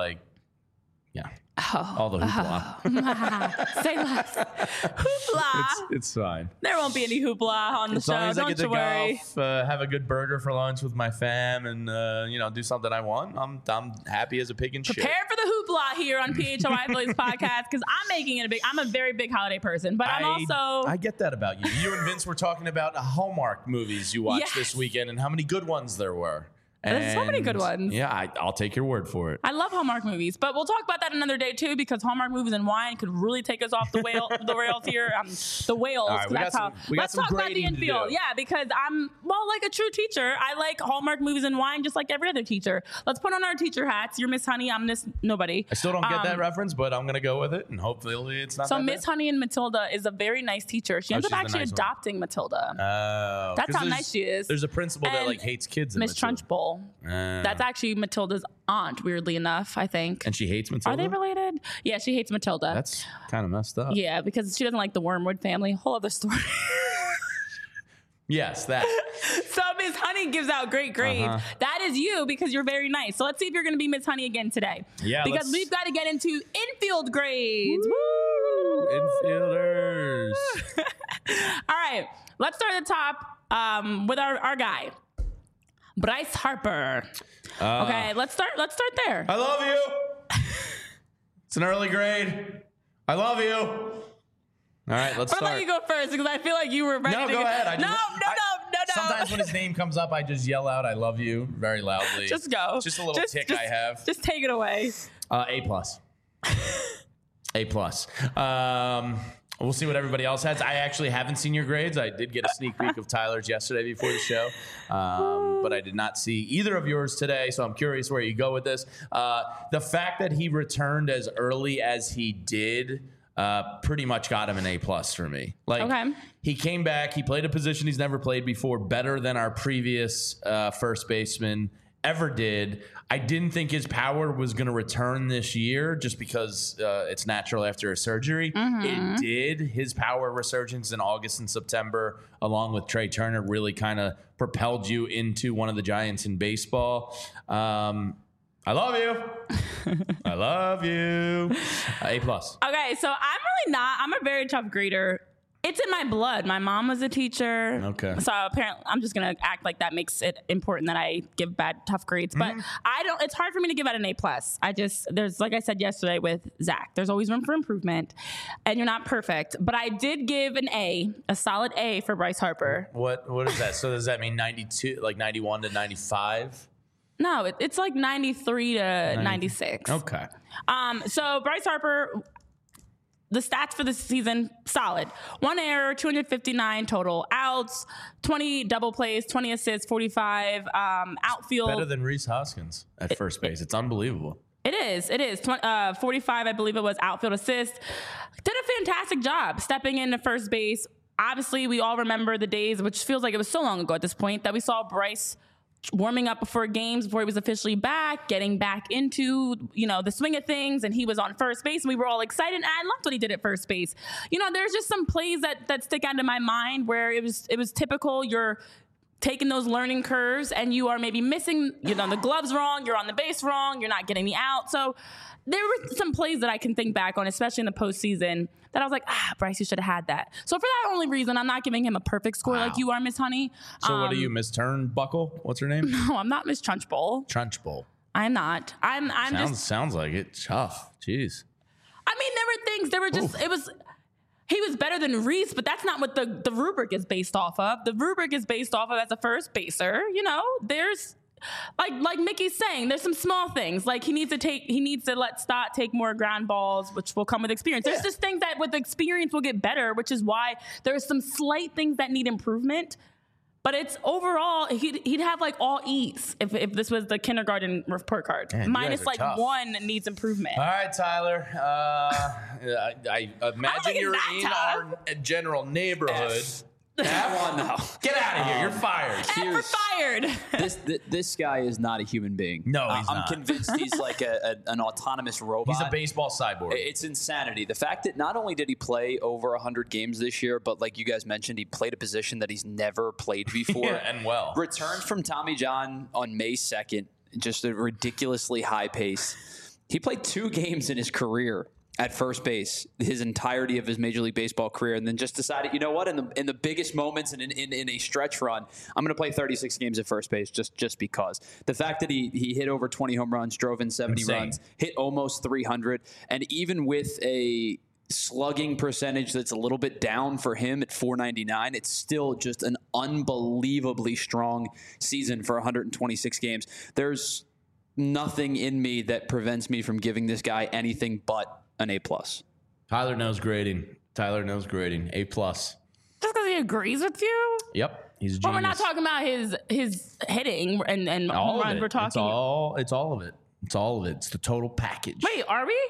Speaker 1: all the hoopla.
Speaker 2: Say less. Hoopla.
Speaker 1: It's fine.
Speaker 2: There won't be any hoopla on the show.
Speaker 1: As long as I get to
Speaker 2: worry.
Speaker 1: golf, have a good burger for lunch with my fam, and do something I want, I'm happy as a pig in shit.
Speaker 2: Prepare for the hoopla here on PHLY Phillies podcast because I'm making it I'm a very big holiday person, but I'm also.
Speaker 1: I get that about you. You and Vince were talking about Hallmark movies you watched this weekend and how many good ones there were.
Speaker 2: There's so many good ones.
Speaker 1: Yeah, I'll take your word for it.
Speaker 2: I love Hallmark movies, but we'll talk about that another day too, because Hallmark movies and wine could really take us off the rails here. The whales.
Speaker 1: Right,
Speaker 2: let's talk about the infield. Yeah, because I'm like a true teacher. I like Hallmark movies and wine just like every other teacher. Let's put on our teacher hats. You're Miss Honey. I'm Miss Nobody.
Speaker 1: I still don't get that reference, but I'm gonna go with it, and hopefully it's not.
Speaker 2: So Miss Honey and Matilda is a very nice teacher. She ends up actually adopting Matilda.
Speaker 1: Oh,
Speaker 2: that's how nice she is.
Speaker 1: There's a principal that hates kids.
Speaker 2: Miss Trunchbull. Nicole. That's actually Matilda's aunt, weirdly enough, I think.
Speaker 1: And she hates Matilda?
Speaker 2: Are they related? Yeah, she hates Matilda.
Speaker 1: That's kind of messed up.
Speaker 2: Yeah, because she doesn't like the Wormwood family. Whole other story.
Speaker 1: Yes, that.
Speaker 2: So Miss Honey gives out great grades. That is you because you're very nice. So let's see if you're going to be Miss Honey again today.
Speaker 1: Yeah,
Speaker 2: because we've got to get into infield grades.
Speaker 1: Woo! Infielders.
Speaker 2: All right, let's start at the top with our guy, Bryce Harper. Okay, let's start there.
Speaker 1: I love you. It's an early grade. I love you. All right, let's start.
Speaker 2: I'll let you go first because I feel like you were ready to
Speaker 1: go ahead.
Speaker 2: No.
Speaker 1: Sometimes when his name comes up, I just yell out, I love you, very loudly.
Speaker 2: Just go.
Speaker 1: Just a little tick I have.
Speaker 2: Just take it away.
Speaker 1: A+. A+. We'll see what everybody else has. I actually haven't seen your grades. I did get a sneak peek of Tyler's yesterday before the show, but I did not see either of yours today, so I'm curious where you go with this. The fact that he returned as early as he did pretty much got him an A+ for me. He came back. He played a position he's never played before, better than our previous first baseman ever did. I didn't think his power was going to return this year just because it's natural after a surgery. It did. His power resurgence in August and September, along with Trey Turner, really kind of propelled you into one of the giants in baseball. I love you. I love you. A+.
Speaker 2: Okay, so I'm really not. I'm a very tough grader. It's in my blood. My mom was a teacher.
Speaker 1: Okay.
Speaker 2: So apparently, I'm just gonna act like that makes it important that I give tough grades. But I don't. It's hard for me to give out an A+. There's like I said yesterday with Zach. There's always room for improvement, and you're not perfect. But I did give an A, a solid A for Bryce Harper.
Speaker 1: What is that? So does that mean 92, like 91 to 95?
Speaker 2: No, it's like 93 to 96.
Speaker 1: Okay.
Speaker 2: So Bryce Harper, the stats for the season, solid. 1 error, 259 total outs, 20 double plays, 20 assists, 45 outfield.
Speaker 1: Better than Rhys Hoskins at first base. It's unbelievable.
Speaker 2: It is. 45, I believe it was, outfield assist. Did a fantastic job stepping into first base. Obviously, we all remember the days, which feels like it was so long ago at this point, that we saw Bryce warming up before games, before he was officially back, getting back into, the swing of things, and he was on first base, and we were all excited, and I loved what he did at first base. There's just some plays that stick out in my mind where it was typical. You're taking those learning curves, and you are maybe missing, the gloves wrong, you're on the base wrong, you're not getting the out. So there were some plays that I can think back on, especially in the postseason, that I was like, Bryce, you should have had that. So for that only reason, I'm not giving him a perfect score like you are, Miss Honey.
Speaker 1: So what are you, Miss Turnbuckle? What's her name?
Speaker 2: No, I'm not Miss Trunchbull.
Speaker 1: Trunchbull.
Speaker 2: I'm not. I'm
Speaker 1: sounds like it. Tough. Jeez.
Speaker 2: I mean, there were things. There were just. He was better than Rhys, but that's not what the rubric is based off of. The rubric is based off of as a first baser. There's. Like Mickey's saying, there's some small things. Like he needs to let Stott take more ground balls, which will come with experience. There's just things that with experience will get better, which is why there's some slight things that need improvement. But it's overall, he'd have like all E's if this was the kindergarten report card.
Speaker 1: Man,
Speaker 2: minus like
Speaker 1: tough.
Speaker 2: 1 needs improvement.
Speaker 1: All right, Tyler. I imagine you're in our general neighborhood.
Speaker 3: Come on now.
Speaker 1: Get out of here. You're fired.
Speaker 2: And we're fired.
Speaker 3: This guy is not a human being.
Speaker 1: No, he's not.
Speaker 3: I'm convinced he's like an autonomous robot.
Speaker 1: He's a baseball cyborg.
Speaker 3: It's insanity. The fact that not only did he play over 100 games this year, but like you guys mentioned, he played a position that he's never played before.
Speaker 1: Yeah, and well.
Speaker 3: Returned from Tommy John on May 2nd, just a ridiculously high pace. He played 2 games in his career at first base, his entirety of his Major League Baseball career, and then just decided, you know what, in the biggest moments and in a stretch run, I'm going to play 36 games at first base just because. The fact that he hit over 20 home runs, drove in 70 runs, hit almost 300, and even with a slugging percentage that's a little bit down for him at .499, it's still just an unbelievably strong season for 126 games. There's nothing in me that prevents me from giving this guy anything but an A+.
Speaker 1: Tyler knows grading. A+.
Speaker 2: Just because he agrees with you?
Speaker 1: Yep. He's a genius.
Speaker 2: But we're not talking about his hitting and
Speaker 1: all
Speaker 2: home runs. We're talking.
Speaker 1: It's all of it. It's the total package.
Speaker 2: Wait, are we?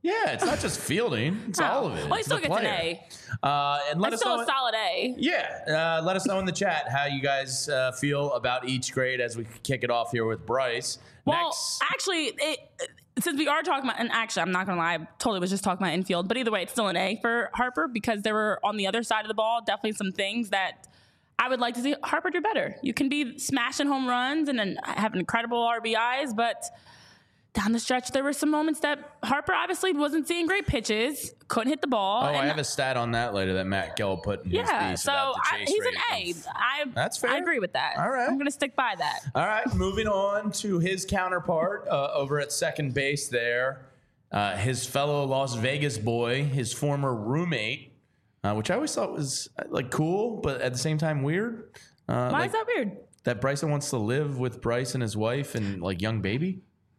Speaker 1: Yeah, it's not just fielding; it's all of it.
Speaker 2: Well, he still gets an A.
Speaker 1: And let
Speaker 2: It's
Speaker 1: us
Speaker 2: still
Speaker 1: know.
Speaker 2: a solid A.
Speaker 1: Yeah, let us know in the chat how you guys feel about each grade as we kick it off here with Bryce.
Speaker 2: Well,
Speaker 1: Next,
Speaker 2: actually, since we are talking about, and actually, I'm not gonna lie, I totally was just talking about infield, but either way, it's still an A for Harper because there were on the other side of the ball definitely some things that I would like to see Harper do better. You can be smashing home runs and then have incredible RBIs, but down the stretch, there were some moments that Harper obviously wasn't seeing great pitches, couldn't hit the ball.
Speaker 1: I have a stat on that later that Matt Gill put in his piece
Speaker 2: so
Speaker 1: about the chase
Speaker 2: he's
Speaker 1: rate.
Speaker 2: an A.
Speaker 1: That's fair.
Speaker 2: I agree with that.
Speaker 1: All right.
Speaker 2: I'm going to stick by that.
Speaker 1: All right, moving on to his counterpart over at second base there. His fellow Las Vegas boy, his former roommate, which I always thought was like cool, but at the same time weird.
Speaker 2: Why is that weird?
Speaker 1: That Bryson wants to live with Bryce and his wife and like young baby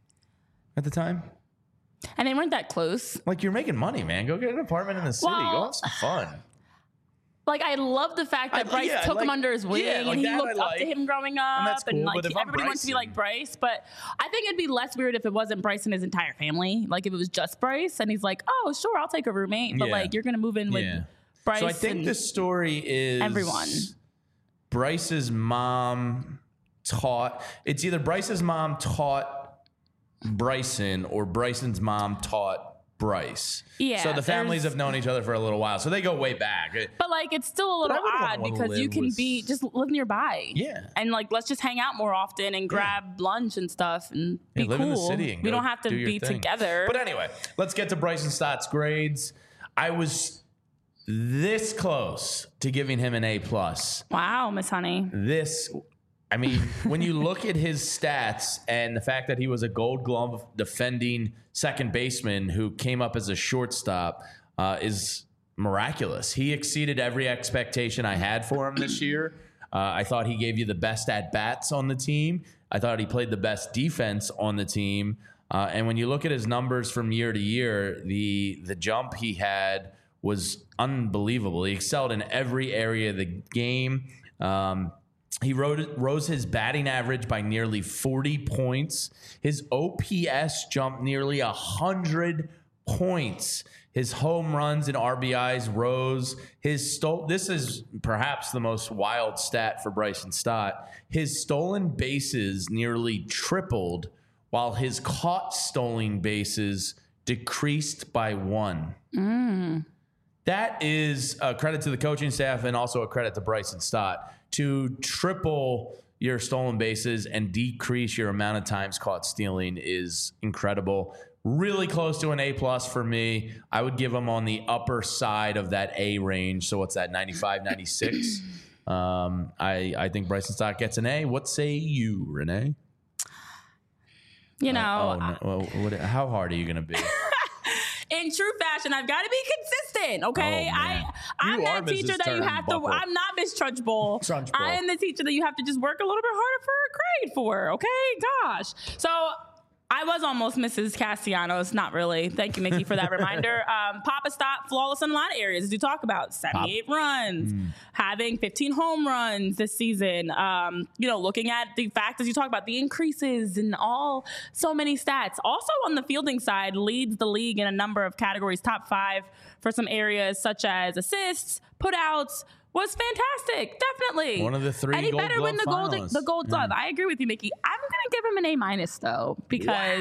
Speaker 1: at the time.
Speaker 2: And they weren't that close.
Speaker 1: Like, you're making money, man. Go get an apartment in the city.
Speaker 2: Well,
Speaker 1: Go have some fun.
Speaker 2: Like, I love the fact that Bryce took him under his wing and he looked up to him growing up.
Speaker 1: And that's cool,
Speaker 2: like,
Speaker 1: but if I'm
Speaker 2: everybody wants to be like Bryce. But I think it'd be less weird if it wasn't Bryce and his entire family. Like, if it was just Bryce and he's like, oh, sure, I'll take a roommate. But, like, you're going to move in with Bryce.
Speaker 1: So I think the story is
Speaker 2: everyone.
Speaker 1: Bryce's mom taught. It's either Bryce's mom taught Bryson or Bryson's mom taught Bryce.
Speaker 2: Yeah.
Speaker 1: So the families have known each other for a little while. So they go way back.
Speaker 2: But like, it's still a little odd because you can just live nearby.
Speaker 1: Yeah.
Speaker 2: And like, let's just hang out more often and grab lunch and stuff and be
Speaker 1: live
Speaker 2: cool.
Speaker 1: in the city and
Speaker 2: we don't have to be together.
Speaker 1: But anyway, let's get to Bryson Stott's grades. I was this close to giving him an A+.
Speaker 2: Wow, Miss Honey.
Speaker 1: I mean, when you look at his stats and the fact that he was a Gold Glove defending second baseman who came up as a shortstop is miraculous. He exceeded every expectation I had for him this year. I thought he gave you the best at-bats on the team. I thought he played the best defense on the team. And when you look at his numbers from year to year, the jump he had was unbelievable. He excelled in every area of the game. He rose his batting average by nearly 40 points. His OPS jumped nearly 100 points. His home runs and RBIs rose. This is perhaps the most wild stat for Bryson Stott. His stolen bases nearly tripled, while his caught stolen bases decreased by 1. That is a credit to the coaching staff and also a credit to Bryson Stott. To triple your stolen bases and decrease your amount of times caught stealing is incredible. Really close to an A+ for me. I would give him on the upper side of that A range. So what's that, 95, 96? I think Bryson Stott gets an A. What say you, Renee?
Speaker 2: You know.
Speaker 1: How hard are you going to be?
Speaker 2: In true fashion, I've got to be consistent, okay? I'm that teacher that you have to. I'm not Miss Trunchbull. I am the teacher that you have to just work a little bit harder for a grade for, okay? Gosh. So I was almost Mrs. Castellanos. Not really. Thank you, Mickey, for that reminder. Papa Stott, flawless in a lot of areas, as you talk about. 78 runs, having 15 home runs this season. Looking at the fact, as you talk about, the increases in so many stats. Also on the fielding side, leads the league in a number of categories, top 5 for some areas such as assists, putouts. Was fantastic, definitely.
Speaker 1: One of the 3
Speaker 2: and he
Speaker 1: Gold
Speaker 2: better
Speaker 1: Glove
Speaker 2: win the Gold Glove. I agree with you, Mickey. I'm gonna give him an A- though, because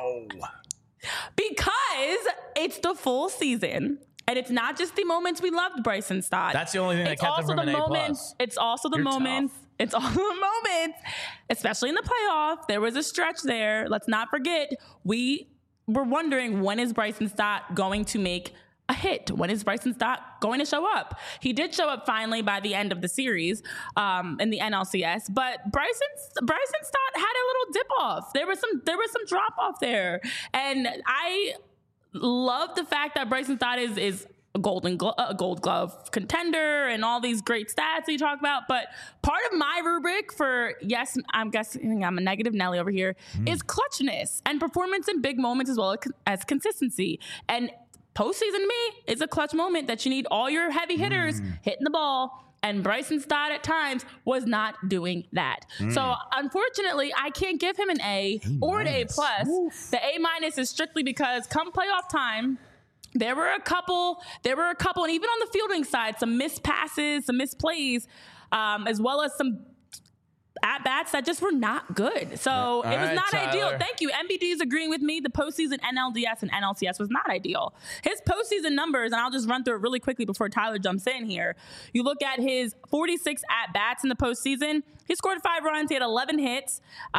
Speaker 2: it's the full season. And it's not just the moments we loved Bryson Stott.
Speaker 1: That's the only thing that kept him from an A+.
Speaker 2: It's also the moments. It's all the moments, especially in the playoff. There was a stretch there. Let's not forget, we were wondering, when is Bryson Stott going to make a hit? When is Bryson Stott going to show up? He did show up finally by the end of the series in the NLCS, but Bryson Stott had a little dip off. There was some drop off there, and I love the fact that Bryson Stott is a Gold Glove contender and all these great stats that you talk about. But part of my rubric for, yes, I'm guessing I'm a negative Nelly over here, is clutchness and performance in big moments as well as consistency. And postseason to me is a clutch moment that you need all your heavy hitters hitting the ball And Bryson Stott at times was not doing that. So unfortunately, I can't give him an A or an A+. The A- is strictly because come playoff time, there were a couple, and even on the fielding side, some missed passes, some missed plays, as well as some at-bats that just were not good. So it was not ideal. Thank you. MBD is agreeing with me. The postseason NLDS and NLCS was not ideal. His postseason numbers, and I'll just run through it really quickly before Tyler jumps in here. You look at his 46 at-bats in the postseason. He scored 5 runs. He had 11 hits,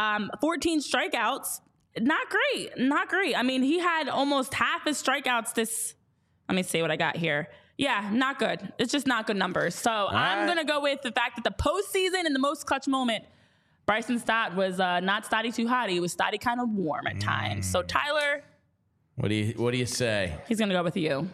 Speaker 2: 14 strikeouts. Not great. I mean, he had almost half his strikeouts let me see what I got here. Yeah, not good. It's just not good numbers. So I'm going to go with the fact that the postseason and the most clutch moment, Bryson Stott was not Stotty too hot. He was Stotty kind of warm at times. So Tyler,
Speaker 1: what do you say?
Speaker 2: He's going to go with you.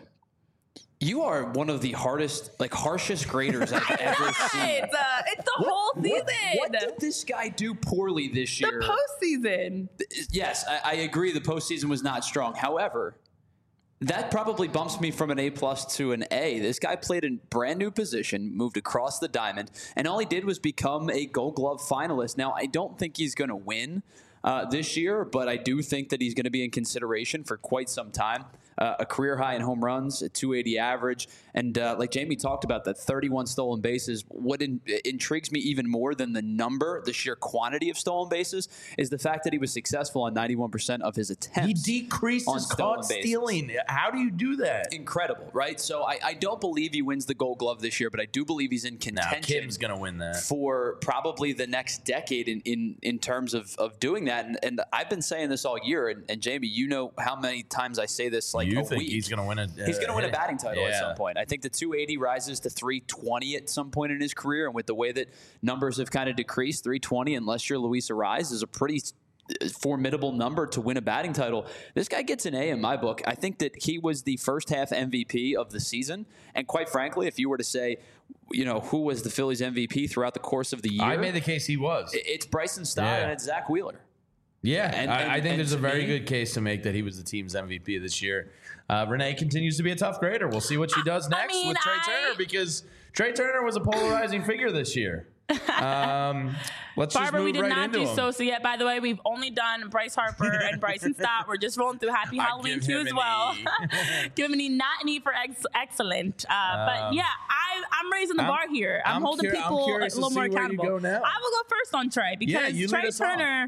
Speaker 3: You are one of the harshest graders I've ever seen.
Speaker 2: It's the whole season.
Speaker 3: What did this guy do poorly this year?
Speaker 2: The postseason.
Speaker 3: Yes, I agree. The postseason was not strong. However, that probably bumps me from an A+ to an A. This guy played in brand new position, moved across the diamond, and all he did was become a Gold Glove finalist. Now, I don't think he's going to win this year, but I do think that he's going to be in consideration for quite some time. A career high in home runs, a 280 average, and like Jamie talked about, that 31 stolen bases. What intrigues me even more than the sheer quantity of stolen bases, is the fact that he was successful on 91% of his attempts.
Speaker 1: He decreased his caught stealing. How do you do that?
Speaker 3: Incredible, right? So I don't believe he wins the Gold Glove this year, but I do believe he's in contention.
Speaker 1: Kim's going to win that
Speaker 3: for probably the next decade in terms of doing that. And I've been saying this all year, and Jamie, you know how many times I say this
Speaker 1: you think he's going to win
Speaker 3: he's going to win a batting title at some point. I think the 280 rises to 320 at some point in his career, and with the way that numbers have kind of decreased, 320, unless you're Luis Arraez, is a pretty formidable number to win a batting title. This guy gets an A in my book. I think that he was the first half MVP of the season, and quite frankly, if you were to say, who was the Phillies MVP throughout the course of the year,
Speaker 1: I made the case he was.
Speaker 3: It's Bryson Stott and it's Zach Wheeler.
Speaker 1: Yeah, and I think there's a very good case to make that he was the team's MVP this year. Renee continues to be a tough grader. We'll see what she does next with Trey Turner, because Trey Turner was a polarizing figure this year. Let's
Speaker 2: Barbara,
Speaker 1: just move
Speaker 2: we did
Speaker 1: right
Speaker 2: not
Speaker 1: into
Speaker 2: do
Speaker 1: him.
Speaker 2: Sosa yet. By the way, we've only done Bryce Harper and Bryson Stott. We're just rolling through Happy Halloween too as well. Give him an E, not an E for excellent. But yeah, I'm raising the bar here. I'm holding people a little more accountable. I will go first on Trey because Trey Turner.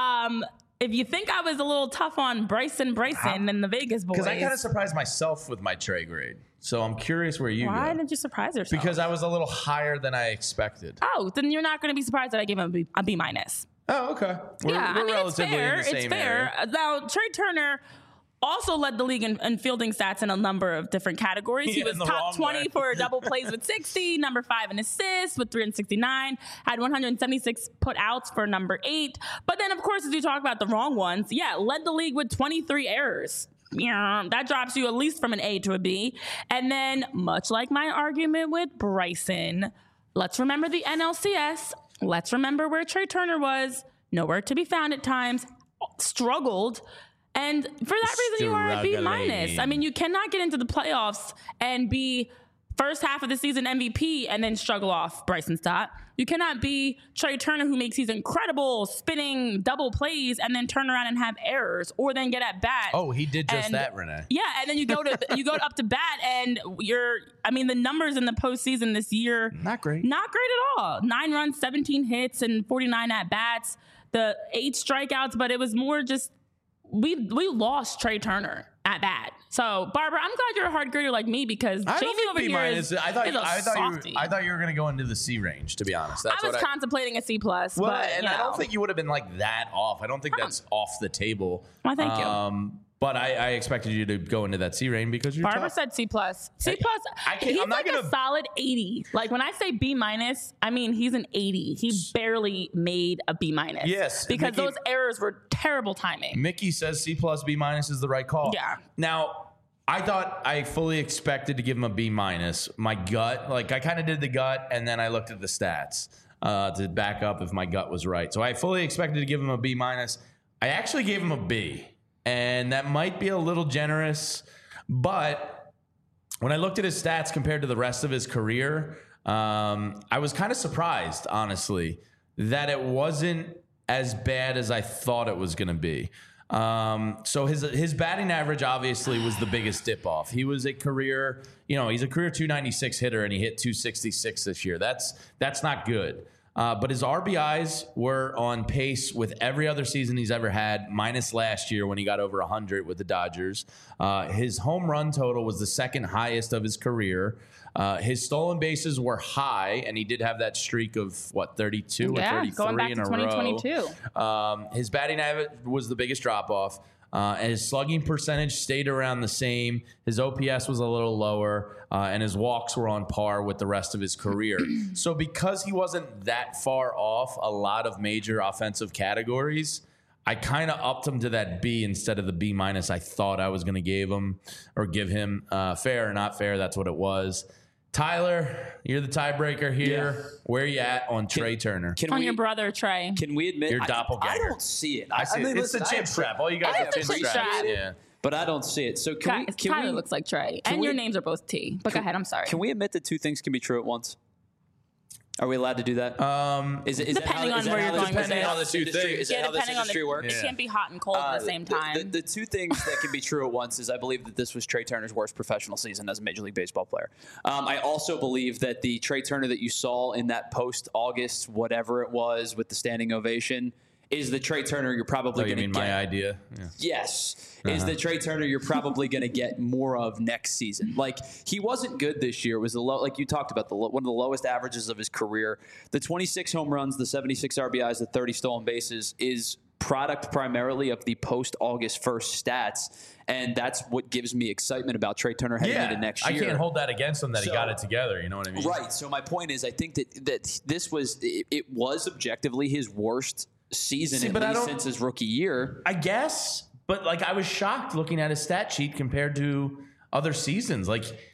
Speaker 2: If you think I was a little tough on Bryson and the Vegas boys.
Speaker 1: Because I kind of surprised myself with my Trey grade. So I'm curious where you go.
Speaker 2: Why did you surprise yourself?
Speaker 1: Because I was a little higher than I expected.
Speaker 2: Oh, then you're not going to be surprised that I gave him a B-.
Speaker 1: Oh, okay. We're relatively in the same area.
Speaker 2: Now, Trey Turner also led the league in fielding stats in a number of different categories. He was top 20 for double plays with 60, number 5 in assists with 369, had 176 put outs for number 8. But then, of course, as you talk about the wrong ones, led the league with 23 errors. That drops you at least from an A to a B. And then, much like my argument with Bryson, let's remember the NLCS. Let's remember where Trey Turner was. Nowhere to be found at times. Struggled. And for that reason, you are a B-. I mean, you cannot get into the playoffs and be first half of the season MVP and then struggle off Bryson Stott. You cannot be Trey Turner, who makes these incredible spinning double plays and then turn around and have errors or then get at bat.
Speaker 1: Oh, he did just that, Renee.
Speaker 2: Yeah, and then you go up to bat and the numbers in the postseason this year,
Speaker 1: not great
Speaker 2: at all. 9 runs, 17 hits, and 49 at bats. The 8 strikeouts, but it was more just we lost Trey Turner at bat. So, Barbara, I'm glad you're a hard grader like me because Jamie over here is a softie.
Speaker 1: I thought you were going to go into the C range, to be honest.
Speaker 2: I was contemplating a C+.
Speaker 1: Well, but, I don't think you would have been like that off. I don't think that's off the table.
Speaker 2: Well, thank you.
Speaker 1: But I expected you to go into that C range because you're
Speaker 2: Barbara
Speaker 1: tough.
Speaker 2: said C+. C+, he's a solid 80. Like when I say B-, I mean he's an 80. He barely made a B-.
Speaker 1: Yes.
Speaker 2: Because those errors were terrible timing.
Speaker 1: Mickey says C+, B- is the right call.
Speaker 2: Yeah.
Speaker 1: Now, I fully expected to give him a B-. My gut, I kind of did the gut, and then I looked at the stats to back up if my gut was right. So I fully expected to give him a B-. I actually gave him a B. And that might be a little generous, but when I looked at his stats compared to the rest of his career, I was kind of surprised, honestly, that it wasn't as bad as I thought it was going to be. So his batting average obviously was the biggest dip off. He was a career, he's a career 296 hitter, and he hit 266 this year. That's not good. But his RBIs were on pace with every other season he's ever had, minus last year when he got over 100 with the Dodgers. His home run total was the second highest of his career. His stolen bases were high, and he did have that streak of, 32 or 33
Speaker 2: going back
Speaker 1: in
Speaker 2: to
Speaker 1: a
Speaker 2: 2022.
Speaker 1: row. His batting average was the biggest drop-off. And his slugging percentage stayed around the same. His OPS was a little lower, and his walks were on par with the rest of his career. So because he wasn't that far off a lot of major offensive categories, I kind of upped him to that B instead of the B- I thought I was going to give him. Fair or not fair, that's what it was. Tyler, you're the tiebreaker here.
Speaker 3: Yeah.
Speaker 1: Where are you at on Trey Turner?
Speaker 2: On your brother, Trey.
Speaker 3: Can we admit
Speaker 1: Your doppelganger.
Speaker 3: I don't see it.
Speaker 1: I see it. It's a chin strap. All you guys have chin straps. Yeah.
Speaker 3: But I don't see it. So
Speaker 2: Tyler looks like Trey. And your names are both T. But go ahead, I'm sorry.
Speaker 3: Can we admit that two things can be true at once? Are we allowed to do that?
Speaker 2: Depending on where you're going with
Speaker 3: Depending
Speaker 2: it.
Speaker 3: on the two things. Is that how this industry works?
Speaker 2: It can't be hot and cold at the same time.
Speaker 3: The two things that can be true at once is I believe that this was Trey Turner's worst professional season as a Major League Baseball player. I also believe that the Trey Turner that you saw in that post-August, whatever it was, with the standing ovation, is the Trey Turner you're probably going to get.
Speaker 1: My idea? Yeah.
Speaker 3: Yes. Is the Trey Turner you're probably going to get more of next season. Like, he wasn't good this year. It was like you talked about, one of the lowest averages of his career. The 26 home runs, the 76 RBIs, the 30 stolen bases is product primarily of the post-August 1st stats. And that's what gives me excitement about Trey Turner heading into next year.
Speaker 1: I can't hold that against him that he got it together. You know what I mean?
Speaker 3: Right. So my point is, I think that this was objectively his worst season since his rookie year.
Speaker 1: I guess, but I was shocked looking at his stat sheet compared to other seasons.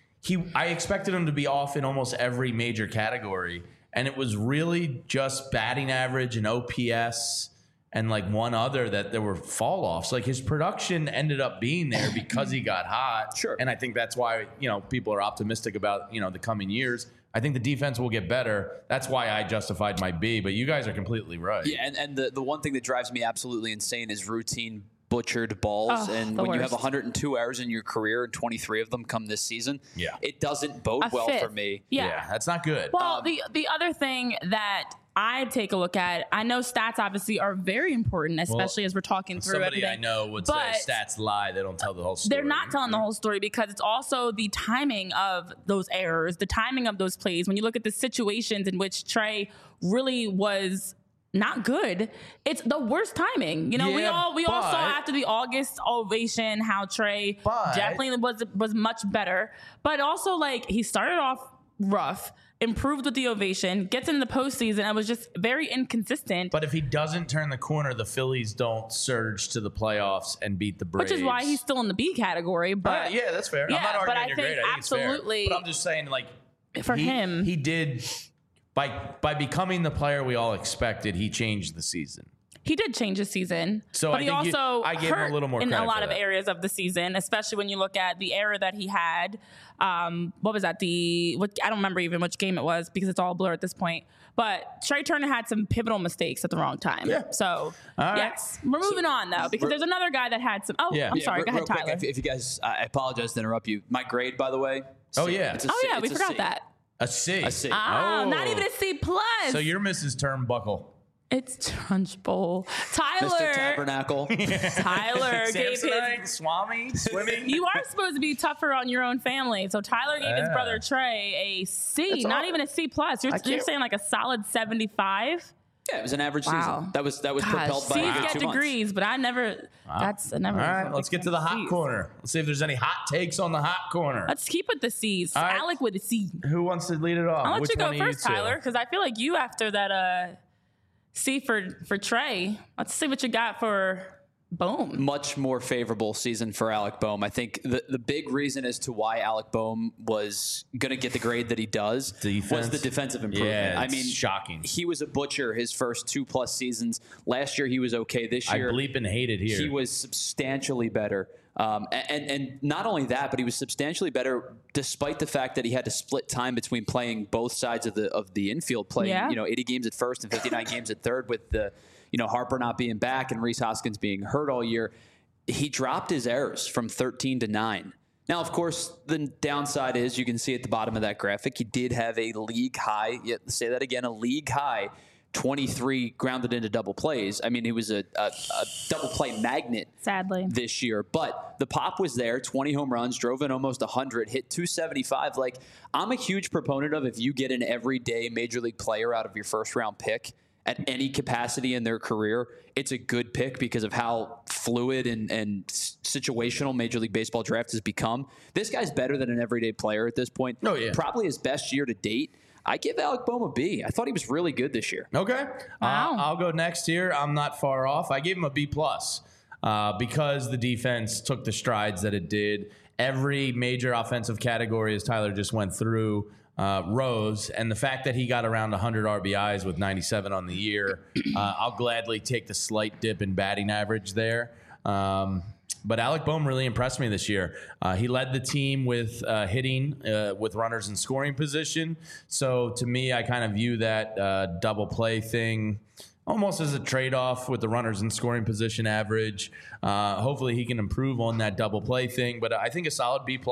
Speaker 1: I expected him to be off in almost every major category, and it was really just batting average and OPS and one other that there were fall offs. His production ended up being there because he got hot.
Speaker 3: Sure.
Speaker 1: And I think that's why, people are optimistic about, the coming years. I think the defense will get better. That's why I justified my B, but you guys are completely right.
Speaker 3: Yeah, and the one thing that drives me absolutely insane is routine butchered balls. And when you have 102 errors in your career and 23 of them come this season, it doesn't bode well for me.
Speaker 2: Yeah,
Speaker 1: that's not good.
Speaker 2: Well, the other thing that I take a look at, I know stats obviously are very important, especially as we're talking through
Speaker 1: somebody
Speaker 2: everything.
Speaker 1: I know would say stats lie. They don't tell the whole story.
Speaker 2: They're not telling the whole story because it's also the timing of those errors, the timing of those plays. When you look at the situations in which Trey really was not good, it's the worst timing. We all saw after the August ovation how Trey definitely was much better. But also, he started off rough, improved with the ovation, gets into the postseason, and was just very inconsistent.
Speaker 1: But if he doesn't turn the corner, the Phillies don't surge to the playoffs and beat the Braves.
Speaker 2: Which is why he's still in the B category. But
Speaker 1: yeah, that's fair.
Speaker 2: Yeah,
Speaker 1: I'm not arguing
Speaker 2: but
Speaker 1: you're great. I think
Speaker 2: absolutely.
Speaker 1: It's fair. But I'm just saying,
Speaker 2: for him,
Speaker 1: he did by becoming the player we all expected. He changed the season.
Speaker 2: He did change his season,
Speaker 1: so
Speaker 2: but he also
Speaker 1: I gave him a little more
Speaker 2: in
Speaker 1: credit
Speaker 2: a lot
Speaker 1: for
Speaker 2: of
Speaker 1: that.
Speaker 2: areas of the season, especially when you look at the error that he had. What was that? I don't remember even which game it was because it's all blur at this point. But Trey Turner had some pivotal mistakes at the wrong time.
Speaker 1: Yeah.
Speaker 2: So yes, we're moving on though because there's another guy that had some. I'm sorry. Go ahead, Tyler.
Speaker 3: If you guys, I apologize to interrupt you. My grade, by the way.
Speaker 2: We forgot that.
Speaker 1: A C.
Speaker 2: Not even a C plus.
Speaker 1: So you're Mrs. Turnbuckle.
Speaker 2: It's Trunchbull. Tyler.
Speaker 3: Mr. Tabernacle.
Speaker 2: Tyler gave his
Speaker 1: Swami swimming.
Speaker 2: You are supposed to be tougher on your own family. So Tyler gave his brother Trey a C, not even a C plus. You're saying a solid 75.
Speaker 3: Yeah, it was an average season. That was propelled by
Speaker 2: C's get degrees, but I never. All
Speaker 1: right, let's get to the hot corner. Let's see if there's any hot takes on the hot corner.
Speaker 2: Let's keep with the C's. Right. Alec with a C.
Speaker 1: Who wants to lead it off?
Speaker 2: I'll let you go first, Tyler, because I feel like you after that C for Trey. Let's see what you got for Bohm.
Speaker 3: Much more favorable season for Alec Bohm. I think the big reason as to why Alec Bohm was going to get the grade that he does was the defensive improvement.
Speaker 1: Yeah, I mean, shocking.
Speaker 3: He was a butcher his first 2+ seasons. Last year he was okay. This year
Speaker 1: I bleep and hated here.
Speaker 3: He was substantially better. And not only that, but he was substantially better despite the fact that he had to split time between playing both sides of the infield, playing 80 games at first and 59 games at third with the Harper not being back and Rhys Hoskins being hurt all year. He dropped his errors from 13 to 9. Now, of course, the downside is you can see at the bottom of that graphic, he did have a league high, say that again, a league high 23 grounded into double plays. I mean, he was a double play magnet
Speaker 2: sadly
Speaker 3: this year, but the pop was there, 20 home runs, drove in almost 100, hit 275. Like, I'm a huge proponent of if you get an everyday major league player out of your first round pick at any capacity in their career, it's a good pick because of how fluid and situational Major League Baseball draft has become. This guy's better than an everyday player at this point.
Speaker 1: Oh, yeah.
Speaker 3: Probably his best year to date. I give Alec Bohm a B. I thought he was really good this year.
Speaker 1: Okay.
Speaker 2: Wow.
Speaker 1: I'll go next here. I'm not far off. I gave him a B+, because the defense took the strides that it did. Every major offensive category, as Tyler just went through, rose, and the fact that he got around 100 RBIs with 97 on the year, I'll gladly take the slight dip in batting average there. But Alec Bohm really impressed me this year. He led the team with hitting with runners in scoring position. So to me, I kind of view that double play thing almost as a trade-off with the runners in scoring position average. Hopefully he can improve on that double play thing. But I think a solid B+.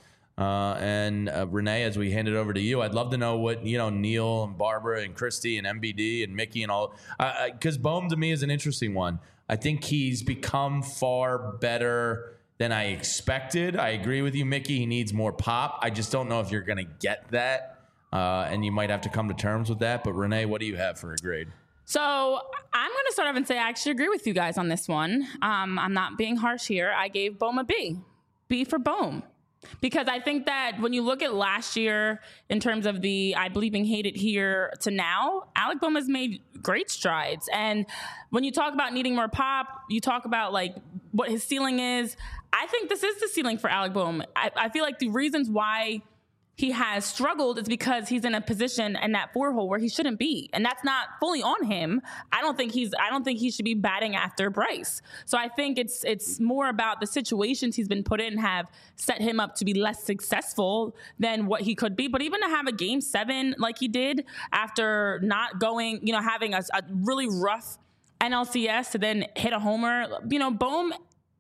Speaker 1: And Renee, as we hand it over to you, I'd love to know what, Neil and Barbara and Christy and MBD and Mickey and all, because Bohm to me is an interesting one. I think he's become far better than I expected. I agree with you, Mickey. He needs more pop. I just don't know if you're going to get that, and you might have to come to terms with that. But Renee, what do you have for a grade?
Speaker 2: So I'm going to start off and say I actually agree with you guys on this one. I'm not being harsh here. I gave Bohm a B. B for Bohm. Because I think that when you look at last year in terms of the I believe in hate it here to now, Alec Bohm has made great strides. And when you talk about needing more pop, you talk about like what his ceiling is. I think this is the ceiling for Alec Bohm. I feel like the reasons why he has struggled is because he's in a position in that 4-hole where he shouldn't be. And that's not fully on him. I don't think he should be batting after Bryce. So I think it's more about the situations he's been put in have set him up to be less successful than what he could be. But even to have a game 7 like he did after not going, having a really rough NLCS to then hit a homer, Bohm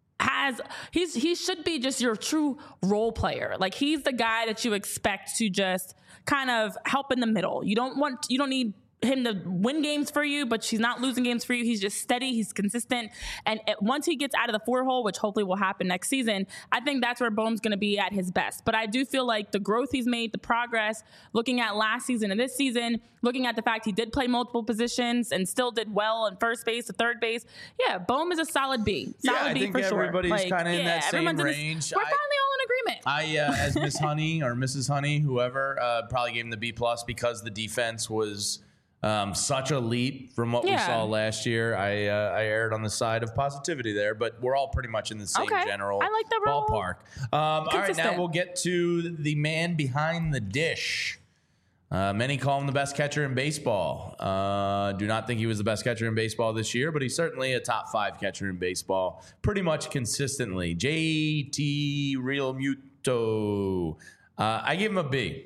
Speaker 2: he should be just your true role player. Like, he's the guy that you expect to just kind of help in the middle. You don't need him to win games for you, but she's not losing games for you. He's just steady. He's consistent. And once he gets out of the 4-hole, which hopefully will happen next season, I think that's where Bohm's going to be at his best. But I do feel like the growth he's made, the progress, looking at last season and this season, looking at the fact he did play multiple positions and still did well in first base to third base. Yeah, Bohm is a solid B. Solid B for sure.
Speaker 1: Everybody's kind of in that same range.
Speaker 2: We're finally all in agreement.
Speaker 1: As Miss Honey or Mrs. Honey, whoever, probably gave him the B+ because the defense was such a leap from what we saw last year. I erred on the side of positivity there, but we're all pretty much in the same general ballpark. All right, now we'll get to the man behind the dish. Many call him the best catcher in baseball. Do not think he was the best catcher in baseball this year, but he's certainly a top 5 catcher in baseball pretty much consistently. JT Realmuto. I give him a B.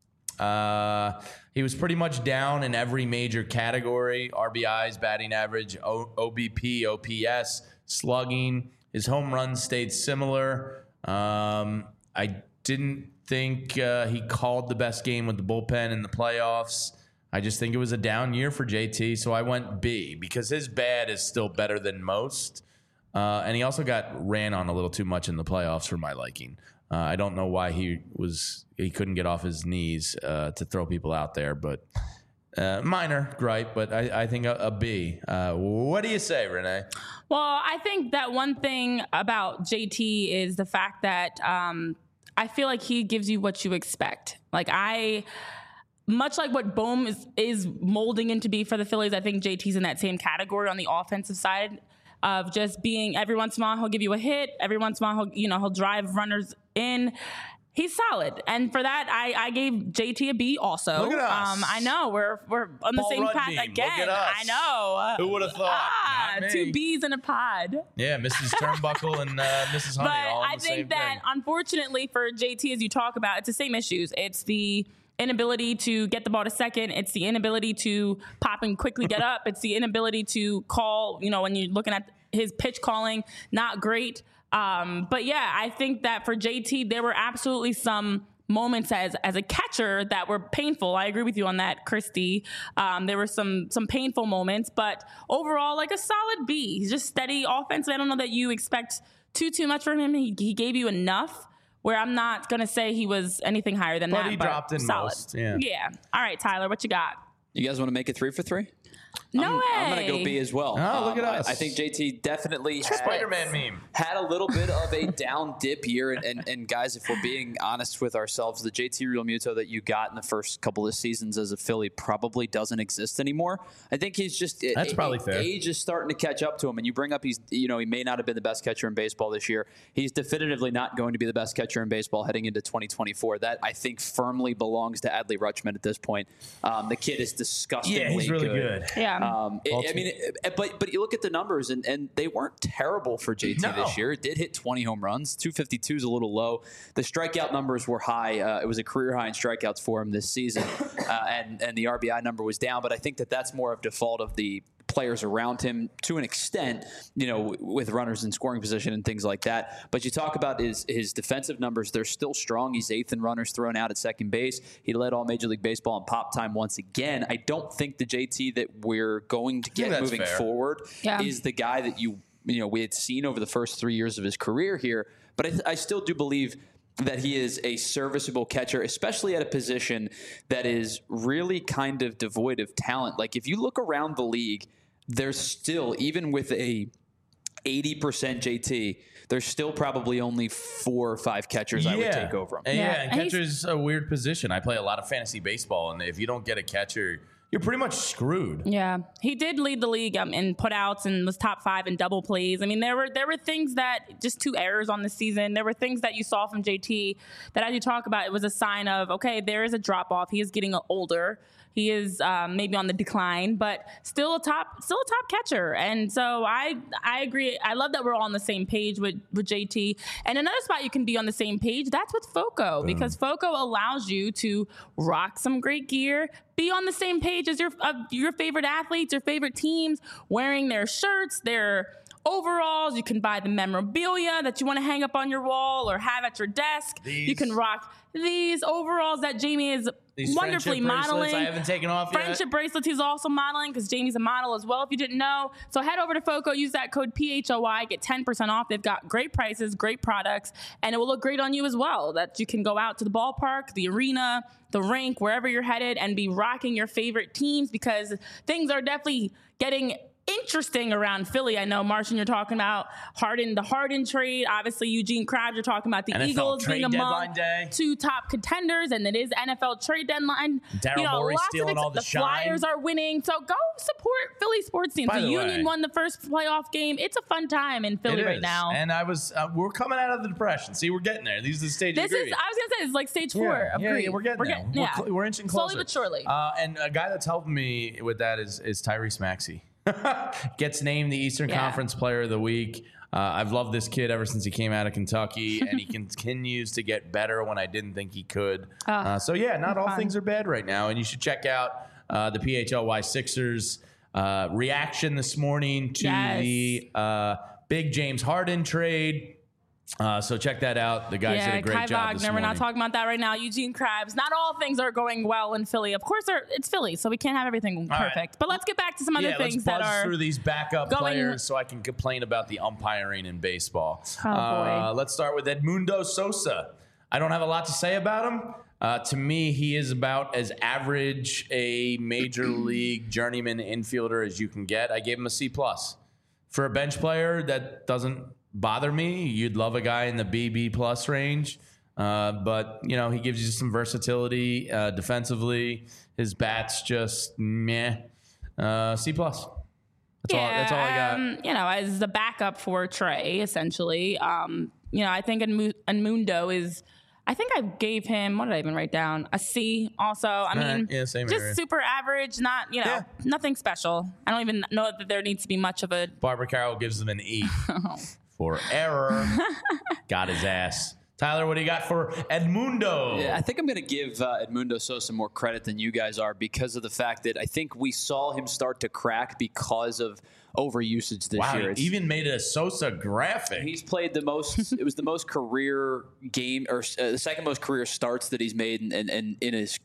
Speaker 1: He was pretty much down in every major category: RBIs, batting average, OBP, OPS, slugging. His home runs stayed similar. I didn't think he called the best game with the bullpen in the playoffs. I just think it was a down year for JT, so I went B because his bad is still better than most. And he also got ran on a little too much in the playoffs for my liking. I don't know why he couldn't get off his knees to throw people out there, but minor gripe, but I think a B. What do you say, Renee?
Speaker 2: Well, I think that one thing about JT is the fact that I feel like he gives you what you expect. Much like what Bohm is molding into be for the Phillies, I think JT's in that same category on the offensive side of just being every once in a while he'll give you a hit, every once in a while he'll drive runners in. He's solid, and for that, I gave JT a B. Also,
Speaker 1: look at us.
Speaker 2: I know we're on the
Speaker 1: Ball
Speaker 2: same
Speaker 1: run
Speaker 2: path
Speaker 1: meme.
Speaker 2: again.
Speaker 1: Look at us.
Speaker 2: I know.
Speaker 1: Who would have thought? Not me.
Speaker 2: 2 B's in a pod.
Speaker 1: Yeah, Mrs. Turnbuckle and Mrs. Honey.
Speaker 2: But
Speaker 1: all in
Speaker 2: I
Speaker 1: the same
Speaker 2: think that
Speaker 1: thing.
Speaker 2: unfortunately for JT, as you talk about, it's the same issues. It's the inability to get the ball to second. It's the inability to pop and quickly get up. It's the inability to call. When you're looking at his pitch calling, not great. But yeah, I think that for JT, there were absolutely some moments as a catcher that were painful. I agree with you on that, Christy. There were some painful moments, but overall, like a solid B. He's just steady offense. I don't know that you expect too much from him. He gave you enough where I'm not going to say he was anything higher than that.
Speaker 1: But he dropped in
Speaker 2: solid.
Speaker 1: most. Yeah.
Speaker 2: Yeah. All right, Tyler, what you got?
Speaker 3: You guys want to make it 3 for 3?
Speaker 2: No way.
Speaker 3: I'm going to go B as well.
Speaker 1: Oh, look at us.
Speaker 3: I think JT definitely
Speaker 1: Spider-Man meme.
Speaker 3: had a little bit of a down dip year. And guys, if we're being honest with ourselves, the JT Realmuto that you got in the first couple of seasons as a Philly probably doesn't exist anymore. I think he's just
Speaker 1: That's probably fair.
Speaker 3: Age is starting to catch up to him. And you bring up he may not have been the best catcher in baseball this year. He's definitively not going to be the best catcher in baseball heading into 2024. That I think firmly belongs to Adley Rutschman at this point. The kid is disgustingly
Speaker 1: Yeah, he's really good.
Speaker 2: Yeah.
Speaker 3: But you look at the numbers, and they weren't terrible for JT this year. It did hit 20 home runs. 252 is a little low. The strikeout numbers were high. It was a career high in strikeouts for him this season, and the RBI number was down. But I think that's more of default of the players around him to an extent, with runners in scoring position and things like that. But you talk about his defensive numbers, they're still strong. He's 8th in runners thrown out at second base. He led all Major League Baseball in pop time once again. I don't think the JT that we're going to get moving forward is the guy that we had seen over the first 3 years of his career here. But I still do believe that he is a serviceable catcher, especially at a position that is really kind of devoid of talent. Like if you look around the league, there's still, even with a 80% JT, there's still probably only 4 or 5 catchers I would take over him.
Speaker 1: And catcher's a weird position. I play a lot of fantasy baseball, and if you don't get a catcher, you're pretty much screwed.
Speaker 2: Yeah, he did lead the league in putouts and was top 5 in double plays. I mean, there were things that just 2 errors on the season. There were things that you saw from JT that, as you talk about, it was a sign of, okay, there is a drop off. He is getting older. He is maybe on the decline, but still a top catcher. And so I agree. I love that we're all on the same page with JT. And another spot you can be on the same page, that's with FOCO, because FOCO allows you to rock some great gear, be on the same page as your favorite athletes, your favorite teams, wearing their shirts, their overalls. You can buy the memorabilia that you want to hang up on your wall or have at your desk. You can rock these overalls that Jamie is wonderfully modeling.
Speaker 1: I haven't taken off yet.
Speaker 2: Friendship bracelets he's also modeling, because Jamie's a model as well, if you didn't know. So head over to FOCO, use that code PHOY, get 10% off. They've got great prices, great products, and it will look great on you as well. That you can go out to the ballpark, the arena, the rink, wherever you're headed, and be rocking your favorite teams, because things are definitely getting interesting around Philly. I know, Martian, you're talking about the Harden trade. Obviously, Eugene Krabs, you're talking about the
Speaker 1: NFL
Speaker 2: Eagles being among
Speaker 1: day.
Speaker 2: 2 top contenders, and it is NFL trade deadline.
Speaker 1: Daryl Morey stealing all the shine.
Speaker 2: Flyers are winning, so go support Philly sports teams. The Union won the first playoff game. It's a fun time in Philly right now.
Speaker 1: And we're coming out of the depression. See, we're getting there. These are the stages.
Speaker 2: I was gonna say it's like stage 4 of grief.
Speaker 1: We're getting there. We're inching closer.
Speaker 2: Slowly but surely.
Speaker 1: And a guy that's helping me with that is Tyrese Maxey. Gets named the Eastern Conference Player of the Week. I've loved this kid ever since he came out of Kentucky, and he continues to get better when I didn't think he could. Not all things are bad right now, and you should check out the PHLY Sixers reaction this morning to the big James Harden trade. So check that out. The guys did a great
Speaker 2: Kai
Speaker 1: job
Speaker 2: Wagner,
Speaker 1: this morning.
Speaker 2: we're not talking about that right now. Eugene Krabs. Not all things are going well in Philly. Of course, it's Philly, so we can't have everything perfect. Right. But let's get back to some other things that are
Speaker 1: through these backup players so I can complain about the umpiring in baseball.
Speaker 2: Oh, boy.
Speaker 1: Let's start with Edmundo Sosa. I don't have a lot to say about him. To me, he is about as average a major league journeyman infielder as you can get. I gave him a C+. For a bench player, that doesn't bother me. You'd love a guy in the BB+ range. But, he gives you some versatility defensively. His bat's just meh. C+. That's all I got.
Speaker 2: As the backup for Trey, essentially, I think Edmundo is I think I gave him, what did I even write down? A C also. I mean,
Speaker 1: same
Speaker 2: just
Speaker 1: area.
Speaker 2: super average, not, nothing special. I don't even know that there needs to be much of a.
Speaker 1: Barbara Carroll gives him an E for error. Got his ass. Tyler, what do you got for Edmundo?
Speaker 3: Yeah, I think I'm going to give Edmundo Sosa more credit than you guys are because of the fact that I think we saw him start to crack because of overusage this year.
Speaker 1: He even made a Sosa graphic.
Speaker 3: He's played the most. It was the most career game, or the second most career starts that he's made, and in his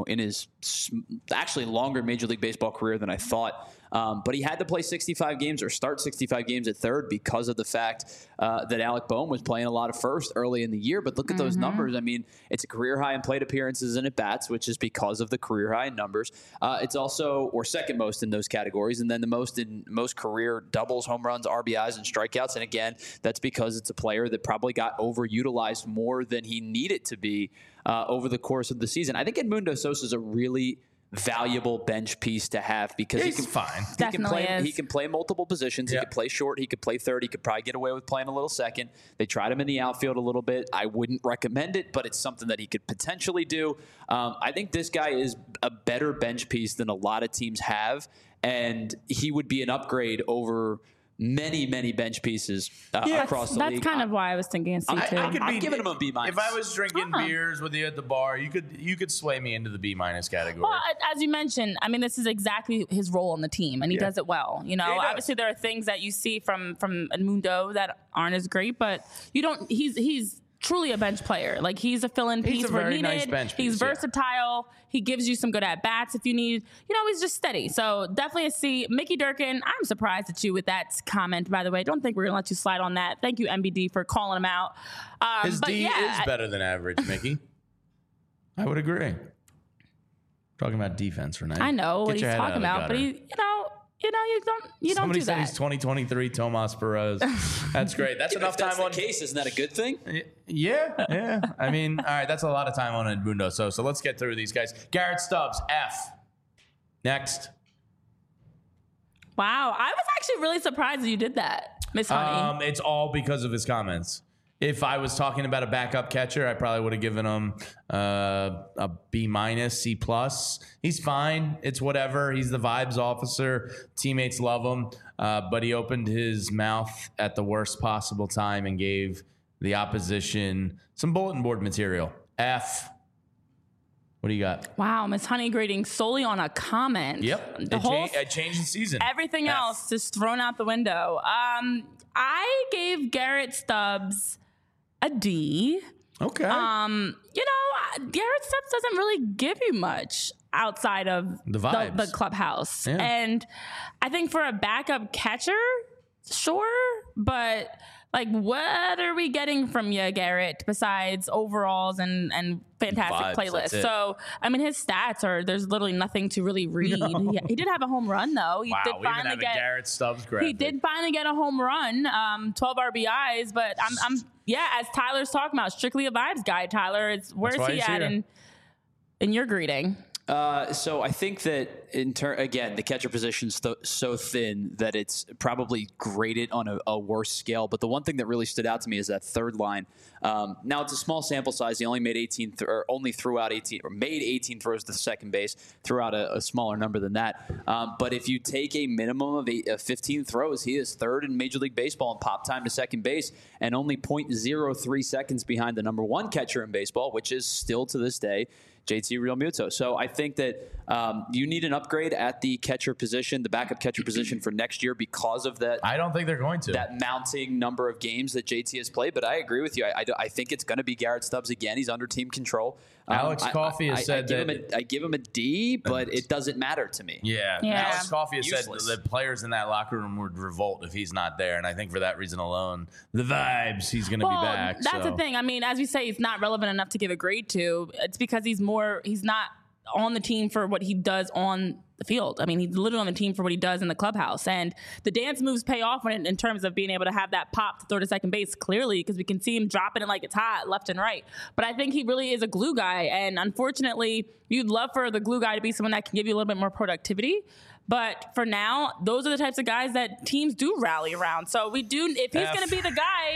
Speaker 3: actually longer Major League Baseball career than I thought. But he had to play 65 games or start 65 games at third because of the fact that Alec Bohm was playing a lot of first early in the year. But look at those numbers. I mean, it's a career high in plate appearances and at bats, which is because of the career high in numbers. It's also, or second most in those categories, and then the most in most career doubles, home runs, RBIs, and strikeouts. And again, that's because it's a player that probably got overutilized more than he needed to be over the course of the season. I think Edmundo Sosa is a really valuable bench piece to have because
Speaker 1: he's fine.
Speaker 3: He can play multiple positions. He could play short. He could play third. He could probably get away with playing a little second. They tried him in the outfield a little bit. I wouldn't recommend it, but it's something that he could potentially do. I think this guy is a better bench piece than a lot of teams have, and he would be an upgrade over many bench pieces across the league.
Speaker 2: That's kind of why I was thinking a C too.
Speaker 3: I'm giving him a B-.
Speaker 1: If I was drinking beers with you at the bar, you could sway me into the B- category.
Speaker 2: Well, as you mentioned, I mean, this is exactly his role on the team, and he does it well. Obviously there are things that you see from Edmundo that aren't as great, but you don't. He's truly a bench player. Like, he's a fill-in piece where needed.
Speaker 1: Nice bench piece,
Speaker 2: he's versatile. He gives you some good at-bats if you need. He's just steady. So definitely a C. Mickey Durkin, I'm surprised at you with that comment, by the way. Don't think we're going to let you slide on that. Thank you, MBD, for calling him out.
Speaker 1: His D is better than average, Mickey. I would agree. Talking about defense for now.
Speaker 2: I know what he's talking about, but you don't
Speaker 1: Somebody
Speaker 2: do
Speaker 1: said
Speaker 2: that.
Speaker 1: he's 2023 Tomas Perez. That's great. That's enough time
Speaker 3: on case. Isn't that a good thing?
Speaker 1: Yeah. I mean, all right, that's a lot of time on Edmundo Sosa. So let's get through these guys. Garrett Stubbs, F. Next.
Speaker 2: Wow, I was actually really surprised that you did that, Miss Honey.
Speaker 1: It's all because of his comments. If I was talking about a backup catcher, I probably would have given him a B-, C+. He's fine. It's whatever. He's the vibes officer. Teammates love him. But he opened his mouth at the worst possible time and gave the opposition some bulletin board material. F. What do you got?
Speaker 2: Wow, Miss Honey grading solely on a comment.
Speaker 1: Yep. It changed the season.
Speaker 2: Everything else just thrown out the window. I gave Garrett Stubbs a D.
Speaker 1: Okay.
Speaker 2: Garrett Stubbs doesn't really give you much outside of
Speaker 1: the vibes,
Speaker 2: the clubhouse.
Speaker 1: Yeah.
Speaker 2: And I think for a backup catcher, sure, but like, what are we getting from you, Garrett, besides overalls and fantastic playlists? So, I mean, his stats there's literally nothing to really read. No. He did have a home run, though.
Speaker 1: He did finally get a Garrett Stubbs graphic.
Speaker 2: He did finally get a home run, 12 RBIs, but I'm as Tyler's talking about, strictly a vibes guy, Tyler. Where's he at in your greeting?
Speaker 3: So I think that again, the catcher position's so thin that it's probably graded on a worse scale. But the one thing that really stood out to me is that third line. Now it's a small sample size. He only made 18 made 18 throws to second base, threw out a smaller number than that. But if you take a minimum of 15 throws, he is third in Major League Baseball in pop time to second base and only 0.03 seconds behind the number one catcher in baseball, which is still to this day JT Realmuto. So I think that you need an upgrade at the catcher position, the backup catcher position for next year because of that.
Speaker 1: I don't think they're going to.
Speaker 3: That mounting number of games that JT has played. But I agree with you. I think it's going to be Garrett Stubbs again. He's under team control.
Speaker 1: Alex Coffey has said that.
Speaker 3: I give him a D, but it doesn't matter to me.
Speaker 1: Yeah. Alex Coffey has said the players in that locker room would revolt if he's not there. And I think for that reason alone, the vibes, he's going to be back.
Speaker 2: That's the thing. I mean, as we say, he's not relevant enough to give a grade to. It's because he's not on the team for what he does on the field. I mean, he's literally on the team for what he does in the clubhouse. And the dance moves pay off in terms of being able to have that pop to throw to second base, clearly, because we can see him dropping it like it's hot left and right. But I think he really is a glue guy. And unfortunately, you'd love for the glue guy to be someone that can give you a little bit more productivity. But for now, those are the types of guys that teams do rally around. So if he's going to be the guy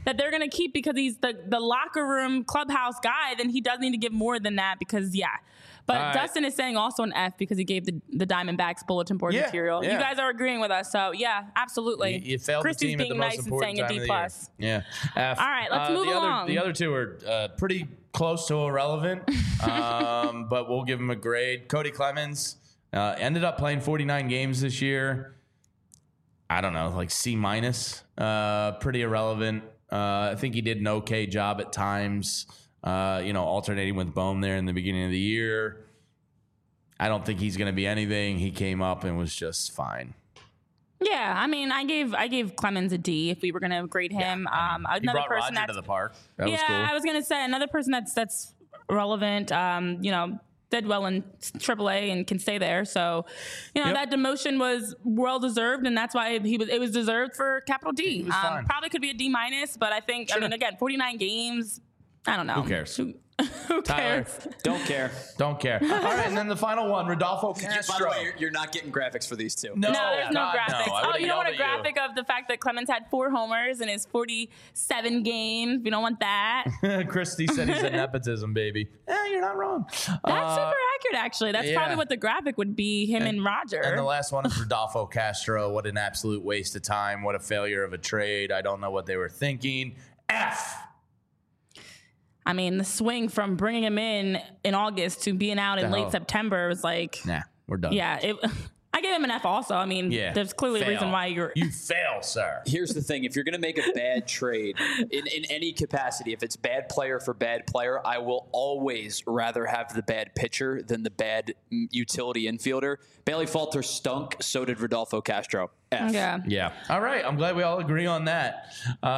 Speaker 2: that they're going to keep because he's the locker room clubhouse guy, then he does need to give more than that because, yeah. But Dustin is saying also an F because he gave the Diamondbacks bulletin board material. Yeah. You guys are agreeing with us. So, yeah, absolutely.
Speaker 1: You failed
Speaker 2: Christy's
Speaker 1: the team at the
Speaker 2: being
Speaker 1: most
Speaker 2: nice
Speaker 1: important
Speaker 2: and saying a D+.
Speaker 1: Yeah. F.
Speaker 2: All right, let's move along.
Speaker 1: The other two are pretty close to irrelevant, but we'll give them a grade. Cody Clemens ended up playing 49 games this year. I don't know, like C-. Pretty irrelevant. I think he did an okay job at times. Alternating with Bohm there in the beginning of the year. I don't think he's going to be anything. He came up and was just fine.
Speaker 2: Yeah, I mean, I gave Clemens a D if we were going to grade him.
Speaker 1: He brought Roger to the park. That was cool.
Speaker 2: I was going to say another person that's relevant. Did well in AAA and can stay there. So, that demotion was well deserved, and that's why it was deserved for capital D.
Speaker 1: He was fine.
Speaker 2: Probably could be a D-, but I think again, 49 games. I don't know.
Speaker 1: Who cares?
Speaker 2: Who
Speaker 1: Tyler,
Speaker 2: cares?
Speaker 3: Don't care.
Speaker 1: Don't care. All right, and then the final one, Rodolfo Castro.
Speaker 3: By the way, you're not getting graphics for these two.
Speaker 2: No, there's no graphics.
Speaker 1: No.
Speaker 2: You don't want a graphic of the fact that Clemens had 4 homers in his 47 games. We don't want that.
Speaker 1: Christy said he's a nepotism baby. You're not wrong.
Speaker 2: That's super accurate, actually. That's probably what the graphic would be, him and Roger.
Speaker 1: And the last one is Rodolfo Castro. What an absolute waste of time. What a failure of a trade. I don't know what they were thinking. F.
Speaker 2: I mean, the swing from bringing him in August to being out in late September was like...
Speaker 1: Nah, we're done.
Speaker 2: Yeah, I gave him an F also. I mean, there's clearly a reason why You
Speaker 1: fail, sir.
Speaker 3: Here's the thing. If you're going to make a bad trade in any capacity, if it's bad player for bad player, I will always rather have the bad pitcher than the bad utility infielder. Bailey Falter stunk. So did Rodolfo Castro. F.
Speaker 1: Yeah. All right. I'm glad we all agree on that.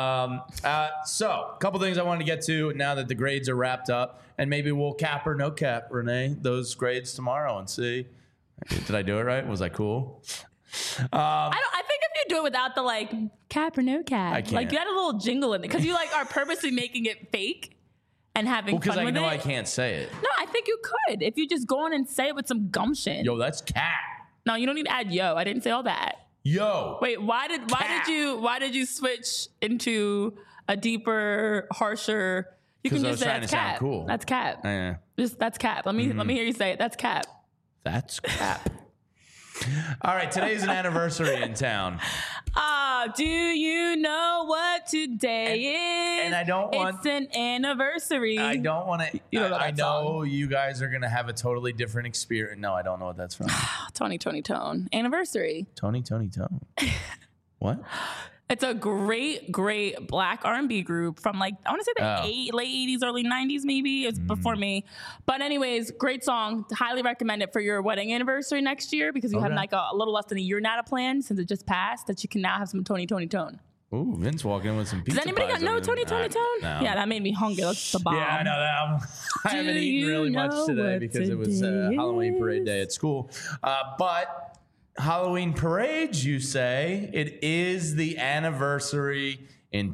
Speaker 1: So a couple things I wanted to get to now that the grades are wrapped up, and maybe we'll cap or no cap, Renee, those grades tomorrow and see. Did I do it right? Was I cool?
Speaker 2: I think if you do it without the cap or no cap,
Speaker 1: I can't.
Speaker 2: You had a little jingle in it because you are purposely making it fake and having fun with it.
Speaker 1: Because I know I can't say it.
Speaker 2: No, I think you could if you just go on and say it with some gumption.
Speaker 1: Yo, that's cap.
Speaker 2: No, you don't need to add yo. I didn't say all that.
Speaker 1: Yo.
Speaker 2: Wait, why did you switch into a deeper, harsher? You can just say that's cap.
Speaker 1: Cool.
Speaker 2: That's cap.
Speaker 1: Yeah.
Speaker 2: That's cap. Let me hear you say it. That's cap.
Speaker 1: That's cap. All right, today's an anniversary in town.
Speaker 2: Do you know what today is?
Speaker 1: And I don't want...
Speaker 2: It's an anniversary.
Speaker 1: I don't want to... I know you guys are going to have a totally different experience. No, I don't know what that's from.
Speaker 2: Tony Tone. Anniversary.
Speaker 1: Tony Tone. What?
Speaker 2: It's a great black R&B group from I want to say the late 80s, early 90s maybe. It's before me. But anyways, great song. Highly recommend it for your wedding anniversary next year because you have a little less than a year now to plan since it just passed that you can now have some Tony Tone.
Speaker 1: Ooh, Vince walking in with some pizza.
Speaker 2: Does anybody got no Tony Tone?
Speaker 1: No.
Speaker 2: Yeah, that made me hungry. That's the bomb.
Speaker 1: Yeah, I know that. I haven't eaten really much today because it was Halloween parade day at school. But... Halloween parades, you say? It is the anniversary in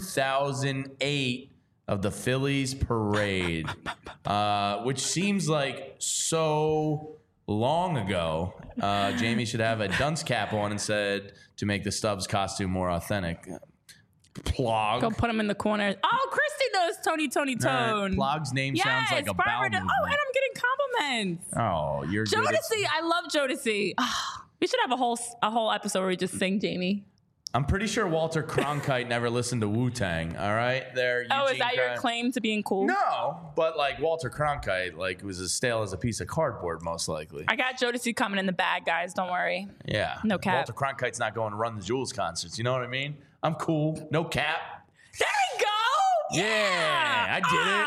Speaker 1: 2008 of the Phillies parade, which seems like so long ago. Jamie should have a dunce cap on instead to make the Stubbs costume more authentic. Plog.
Speaker 2: Go put him in the corner. Oh, Christy knows Tony Tone.
Speaker 1: Plog's name sounds like a bowel movement.
Speaker 2: Oh, and I'm getting compliments.
Speaker 1: Oh, you're
Speaker 2: Jodeci. I love Jodeci. We should have a whole episode where we just sing Jamie.
Speaker 1: I'm pretty sure Walter Cronkite never listened to Wu-Tang. All right, there.
Speaker 2: Is that your claim to being cool?
Speaker 1: No, but Walter Cronkite, was as stale as a piece of cardboard, most likely.
Speaker 2: I got Jodeci coming in the bag, guys. Don't worry.
Speaker 1: Yeah,
Speaker 2: no cap.
Speaker 1: Walter Cronkite's not going to run the Jules concerts. You know what I mean? I'm cool. No cap.
Speaker 2: There we go.
Speaker 1: Yeah,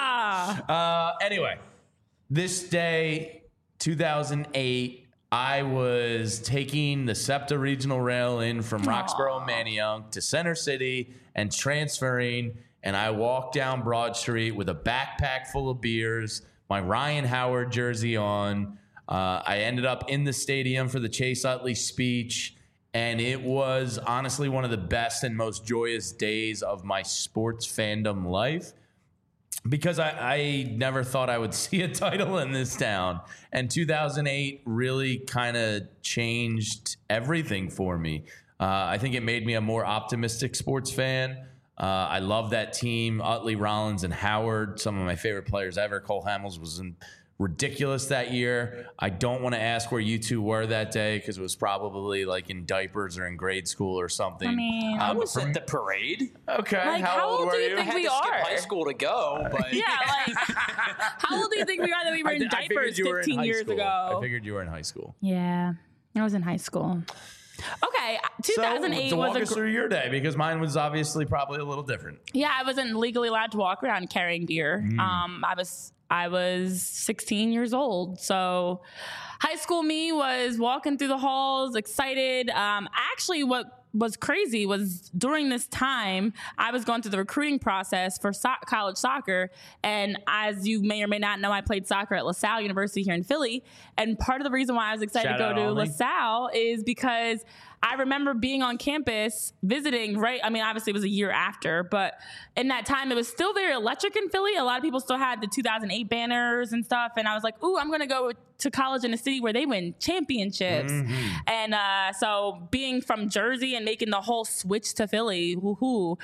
Speaker 1: I did it. Anyway, this day, 2008. I was taking the SEPTA Regional Rail in from Roxborough and Manayunk to Center City and transferring, and I walked down Broad Street with a backpack full of beers, my Ryan Howard jersey on. I ended up in the stadium for the Chase Utley speech, and it was honestly one of the best and most joyous days of my sports fandom life. Because I never thought I would see a title in this town. And 2008 really kind of changed everything for me. I think it made me a more optimistic sports fan. I love that team. Utley, Rollins, and Howard, some of my favorite players ever. Cole Hamels was ridiculous that year. I don't want to ask where you two were that day because it was probably like in diapers or in grade school or something.
Speaker 2: I mean,
Speaker 3: I was at the parade.
Speaker 1: Okay.
Speaker 2: Like, how old do you think
Speaker 3: I had
Speaker 2: we
Speaker 3: to skip
Speaker 2: are?
Speaker 3: high school to go, but
Speaker 2: Yeah, like, how old do you think we are that we were in
Speaker 1: I figured
Speaker 2: diapers
Speaker 1: you were in
Speaker 2: 15
Speaker 1: high
Speaker 2: years
Speaker 1: school.
Speaker 2: ago?
Speaker 1: I figured you were in high school.
Speaker 2: Yeah, I was in high school. Okay, 2008
Speaker 1: so walk
Speaker 2: was
Speaker 1: us through your day because mine was obviously probably a little different.
Speaker 2: Yeah, I wasn't legally allowed to walk around carrying beer. I was 16 years old. So high school me was walking through the halls, excited. Actually, what was crazy was during this time, I was going through the recruiting process for college soccer. And as you may or may not know, I played soccer at LaSalle University here in Philly. And part of the reason why I was excited to go to LaSalle is because I remember being on campus visiting, right? I mean, obviously it was a year after, but in that time it was still very electric in Philly. A lot of people still had the 2008 banners and stuff. And I was like, ooh, I'm going to go to college in a city where they win championships. And so being from Jersey and making the whole switch to Philly, woohoo.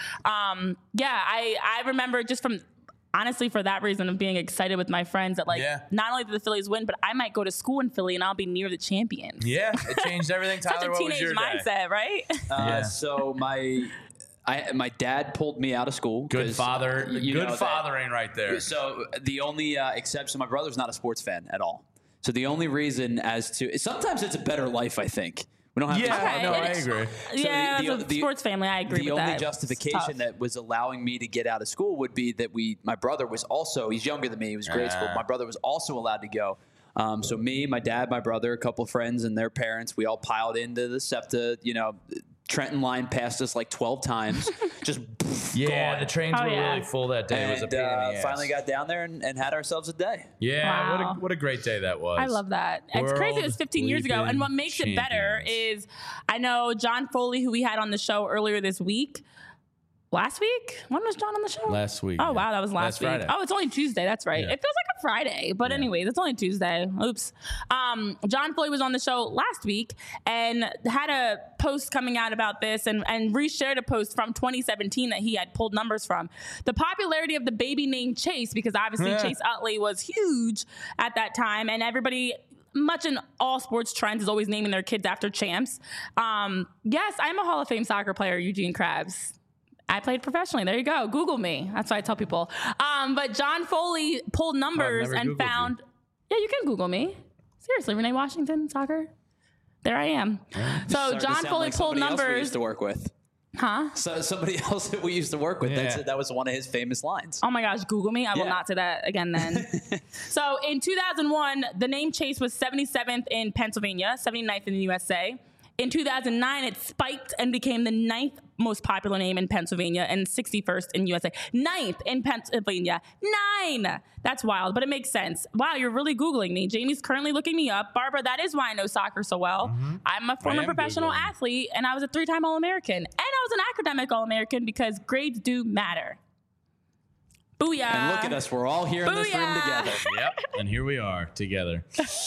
Speaker 2: I remember just from... honestly, for that reason of being excited with my friends that not only did the Phillies win, but I might go to school in Philly and I'll be near the champions.
Speaker 1: Yeah, it changed everything. Tyler,
Speaker 2: such a
Speaker 1: what was
Speaker 2: teenage
Speaker 1: your
Speaker 2: mindset, right?
Speaker 3: So my dad pulled me out of school.
Speaker 1: Good father, good fathering right there.
Speaker 3: So the only exception, my brother's not a sports fan at all. So the only reason sometimes it's a better life, I think. We don't have
Speaker 1: I agree.
Speaker 2: As a sports family, I agree with that.
Speaker 3: The only justification that was allowing me to get out of school would be that my brother was also, he's younger than me, he was grade school. My brother was also allowed to go. So me, my dad, my brother, a couple of friends and their parents, we all piled into the SEPTA, Trenton line passed us like 12 times. Just
Speaker 1: the trains were really full that day. It was a pain in the ass.
Speaker 3: Finally got down there and had ourselves a day.
Speaker 1: Yeah,
Speaker 2: Wow.
Speaker 1: what a great day that was.
Speaker 2: I love that. It's crazy. It was 15 years ago. And what makes it better is I know John Foley, who we had on the show earlier this week. Last week? When was John on the show?
Speaker 1: Last week.
Speaker 2: Oh, wow. That was last week.
Speaker 1: Friday.
Speaker 2: Oh, it's only Tuesday. That's right.
Speaker 1: Yeah.
Speaker 2: It feels like a Friday. But anyways, it's only Tuesday. Oops. John Foley was on the show last week and had a post coming out about this and reshared a post from 2017 that he had pulled numbers from. The popularity of the baby named Chase, because obviously Chase Utley was huge at that time. And everybody... much in all sports trends is always naming their kids after champs. Yes, I'm a Hall of Fame soccer player, Eugene Krabs. I played professionally. There you go. Google me. That's what I tell people. But John Foley pulled numbers and found... Yeah, you can Google me. Seriously, Renee Washington, soccer. There I am. So John Foley pulled numbers...
Speaker 3: we used to work with.
Speaker 2: Huh?
Speaker 3: So somebody else that we used to work with.
Speaker 1: Yeah.
Speaker 3: That was one of his famous lines.
Speaker 2: Oh my gosh, Google me. I will not say that again then. So in 2001, the name Chase was 77th in Pennsylvania, 79th in the USA. In 2009, it spiked and became the 9th most popular name in Pennsylvania and 61st in USA. 9th in Pennsylvania. 9! That's wild, but it makes sense. Wow, you're really Googling me. Jamie's currently looking me up. Barbara, that is why I know soccer so well. I'm a former professional athlete, and I was a 3-time All-American. And I was an academic All-American because grades do matter. Booyah.
Speaker 3: And look at us. We're all here in this room together.
Speaker 1: Yep. And here we are together.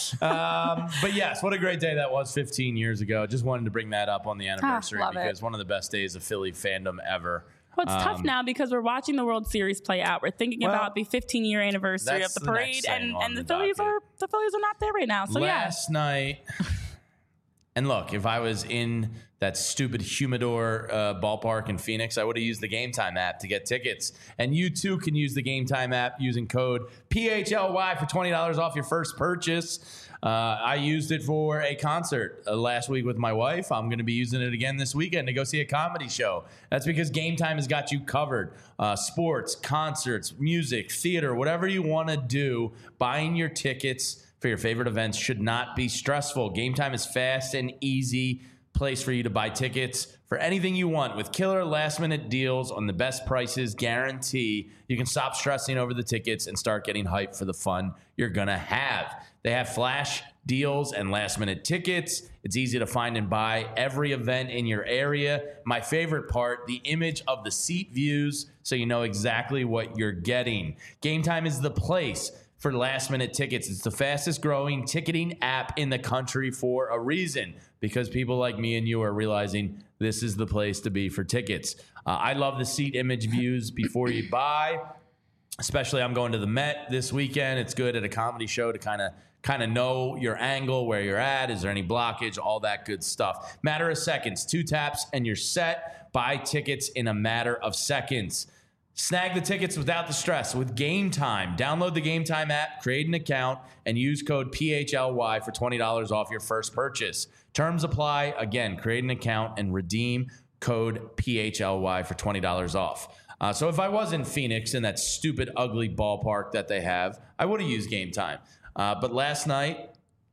Speaker 1: But yes, what a great day that was 15 years ago. Just wanted to bring that up on the anniversary because one of the best days of Philly fandom ever.
Speaker 2: Well, it's tough now because we're watching the World Series play out. We're thinking about the 15-year anniversary of the parade, and the Phillies are not there right now. So
Speaker 1: last night, and look, if I was in that stupid Humidor ballpark in Phoenix, I would have used the Game Time app to get tickets. And you too can use the Game Time app using code PHLY for $20 off your first purchase. I used it for a concert last week with my wife. I'm going to be using it again this weekend to go see a comedy show. That's because Game Time has got you covered. Sports, concerts, music, theater, whatever you want to do, buying your tickets for your favorite events should not be stressful. Game Time is fast and easy place for you to buy tickets for anything you want with killer last-minute deals on the best prices guarantee. You can stop stressing over the tickets and start getting hyped for the fun you're going to have. They have flash deals and last-minute tickets. It's easy to find and buy every event in your area. My favorite part, the image of the seat views so you know exactly what you're getting. Game Time is the place. for last-minute tickets. It's the fastest-growing ticketing app in the country for a reason, because people like me and you are realizing this is the place to be for tickets. I love the seat image views before you buy. Especially, I'm going to the Met this weekend. It's good at a comedy show to kind of know your angle, where you're at. Is there any blockage? All that good stuff. Matter of seconds. 2 taps and you're set. Buy tickets in a matter of seconds. Snag the tickets without the stress with Game Time. Download the Game Time app, create an account, and use code PHLY for $20 off your first purchase. Terms apply. Again, create an account and redeem code PHLY for $20 off. So if I was in Phoenix in that stupid, ugly ballpark that they have, I would have used Game Time. But last night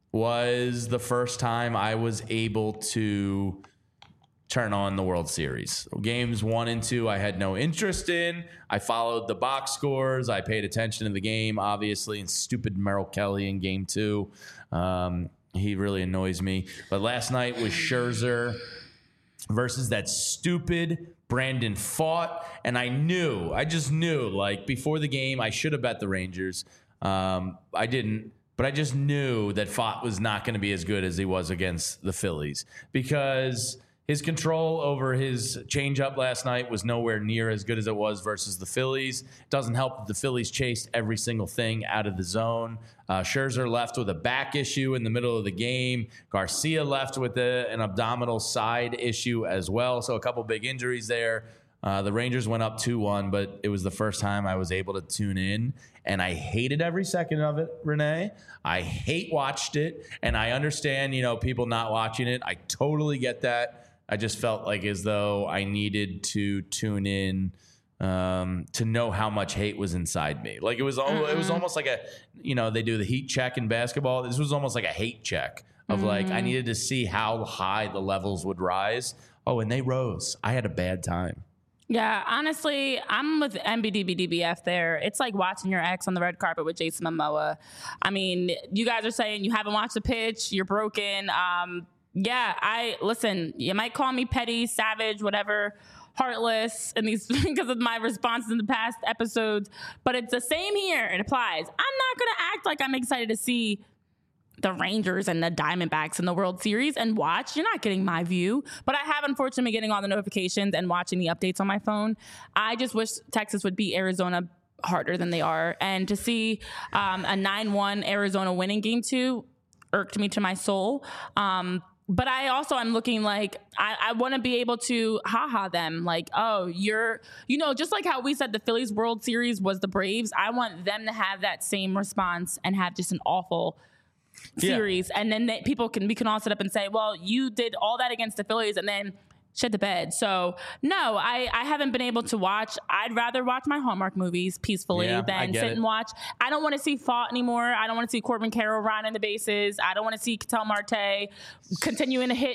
Speaker 1: was the first time I was able to turn on the World Series. Games 1 and 2 I had no interest in. I followed the box scores. I paid attention to the game, obviously, and stupid Merrill Kelly in Game 2. He really annoys me. But last night was Scherzer versus that stupid Brandon Pfaadt, and I just knew, like, before the game, I should have bet the Rangers. I didn't, but I just knew that Pfaadt was not going to be as good as he was against the Phillies, because his control over his changeup last night was nowhere near as good as it was versus the Phillies. It doesn't help that the Phillies chased every single thing out of the zone. Scherzer left with a back issue in the middle of the game. Garcia left with an abdominal side issue as well. So a couple big injuries there. The Rangers went up 2-1, but it was the first time I was able to tune in, and I hated every second of it, Renee. I watched it, and I understand, people not watching it. I totally get that. I just felt like as though I needed to tune in to know how much hate was inside me. Like it was almost like they do the heat check in basketball. This was almost like a hate check of like, I needed to see how high the levels would rise. Oh, and they rose. I had a bad time.
Speaker 2: Yeah, honestly, I'm with MBDBDBF there. It's like watching your ex on the red carpet with Jason Momoa. I mean, you guys are saying you haven't watched the pitch, you're broken. Yeah, listen, you might call me petty, savage, whatever, heartless, and these because of my responses in the past episodes, but it's the same here. It applies. I'm not going to act like I'm excited to see the Rangers and the Diamondbacks in the World Series and watch. You're not getting my view, but I have unfortunately been getting all the notifications and watching the updates on my phone. I just wish Texas would beat Arizona harder than they are, and to see a 9-1 Arizona winning Game 2 irked me to my soul. But I'm looking like I want to be able to them like, oh, just like how we said the Phillies World Series was the Braves. I want them to have that same response and have just an awful series. And then we can all sit up and say, well, you did all that against the Phillies and then shit the bed. So no, I haven't been able to watch. I'd rather watch my Hallmark movies peacefully than sit and watch. I don't want to see Pfaadt anymore. I don't want to see Corbin Carroll running the bases. I don't want to see Ketel Marte continuing to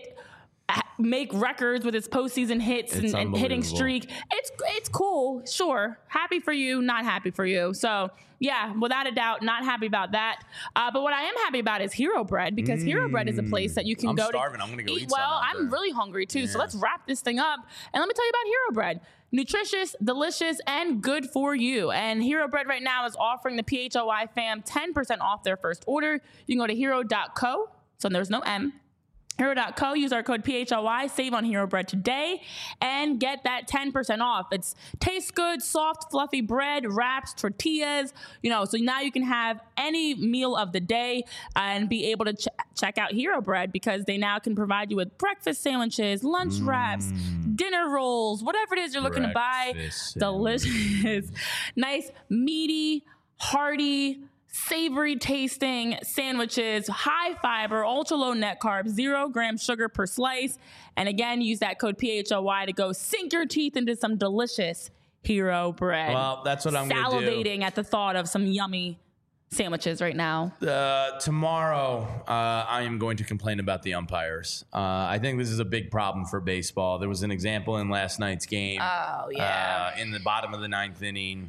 Speaker 2: make records with his postseason hits and hitting streak. It's cool, sure. Happy for you, not happy for you. So yeah, without a doubt, not happy about that. But what I am happy about is Hero Bread, because Hero Bread is a place that you can go
Speaker 1: starving. I'm gonna go eat some.
Speaker 2: Well, I'm really hungry too. Yeah. So let's wrap this thing up and let me tell you about Hero Bread. Nutritious, delicious, and good for you. And Hero Bread right now is offering the PHLY fam 10% off their first order. You can go to hero.co. So there's no M. Hero.co, use our code PHLY, save on Hero Bread today, and get that 10% off. It's tastes good, soft, fluffy bread, wraps, tortillas, so now you can have any meal of the day and be able to check out Hero Bread, because they now can provide you with breakfast sandwiches, lunch wraps, dinner rolls, whatever it is you're looking to buy. Delicious, nice, meaty, hearty, savory tasting sandwiches, high fiber, ultra low net carbs, 0 gram sugar per slice. And again, use that code PHLY to go sink your teeth into some delicious Hero Bread.
Speaker 1: Well, that's what I'm going to do.
Speaker 2: Salivating at the thought of some yummy sandwiches right now.
Speaker 1: Tomorrow, I am going to complain about the umpires. I think this is a big problem for baseball. There was an example in last night's game.
Speaker 2: Oh, yeah.
Speaker 1: In the bottom of the 9th inning.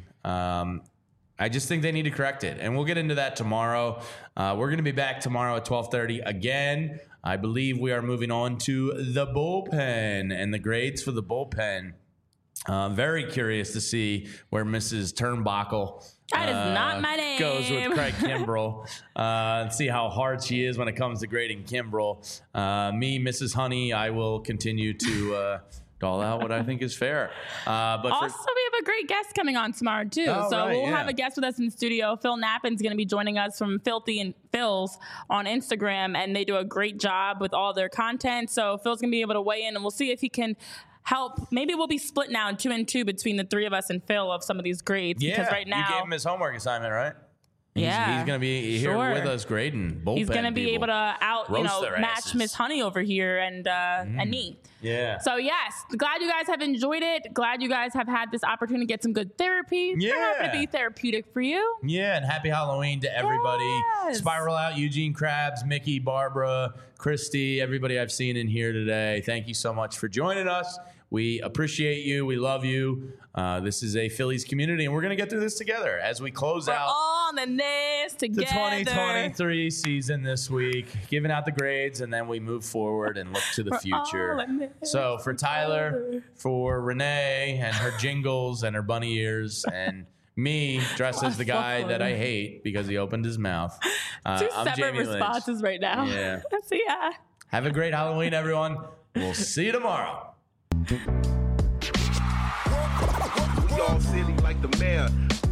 Speaker 1: I just think they need to correct it. And we'll get into that tomorrow. We're going to be back tomorrow at 12:30 again. I believe we are moving on to the bullpen and the grades for the bullpen. Very curious to see where Mrs. Turnbuckle
Speaker 2: That is not my name.
Speaker 1: Goes with Craig Kimbrell. See how hard she is when it comes to grading Kimbrell. Me, Mrs. Honey, I will continue to doll out what I think is fair. But
Speaker 2: also, we have a great guest coming on tomorrow, too. We'll have a guest with us in the studio. Phil Knappin's going to be joining us from Filthy and Phil's on Instagram, and they do a great job with all their content. So Phil's going to be able to weigh in, and we'll see if he can help. Maybe we'll be split now 2 and 2 between the three of us and Phil of some of these grades.
Speaker 1: Yeah,
Speaker 2: because right now,
Speaker 1: you gave him his homework assignment, right? He's going to be here with us grading.
Speaker 2: He's going to be able to match Miss Honey over here and me.
Speaker 1: Yeah.
Speaker 2: So yes, glad you guys have enjoyed it. Glad you guys have had this opportunity to get some good therapy.
Speaker 1: Yeah.
Speaker 2: We're happy to be therapeutic for you.
Speaker 1: Yeah, and happy Halloween to everybody.
Speaker 2: Yes.
Speaker 1: Spiral out, Eugene Krabs, Mickey, Barbara, Christy, everybody I've seen in here today. Thank you so much for joining us. We appreciate you. We love you. This is a Phillies community, and we're going to get through this together as we close out
Speaker 2: on in this together.
Speaker 1: The 2023 season this week, giving out the grades, and then we move forward and look to the future. So for Tyler, for Renee and her jingles and her bunny ears, and me dressed as the guy that I hate because he opened his mouth.
Speaker 2: Two separate responses right now.
Speaker 1: Yeah.
Speaker 2: So yeah.
Speaker 1: Have a great Halloween, everyone. We'll see you tomorrow.
Speaker 4: We all silly like the mayor.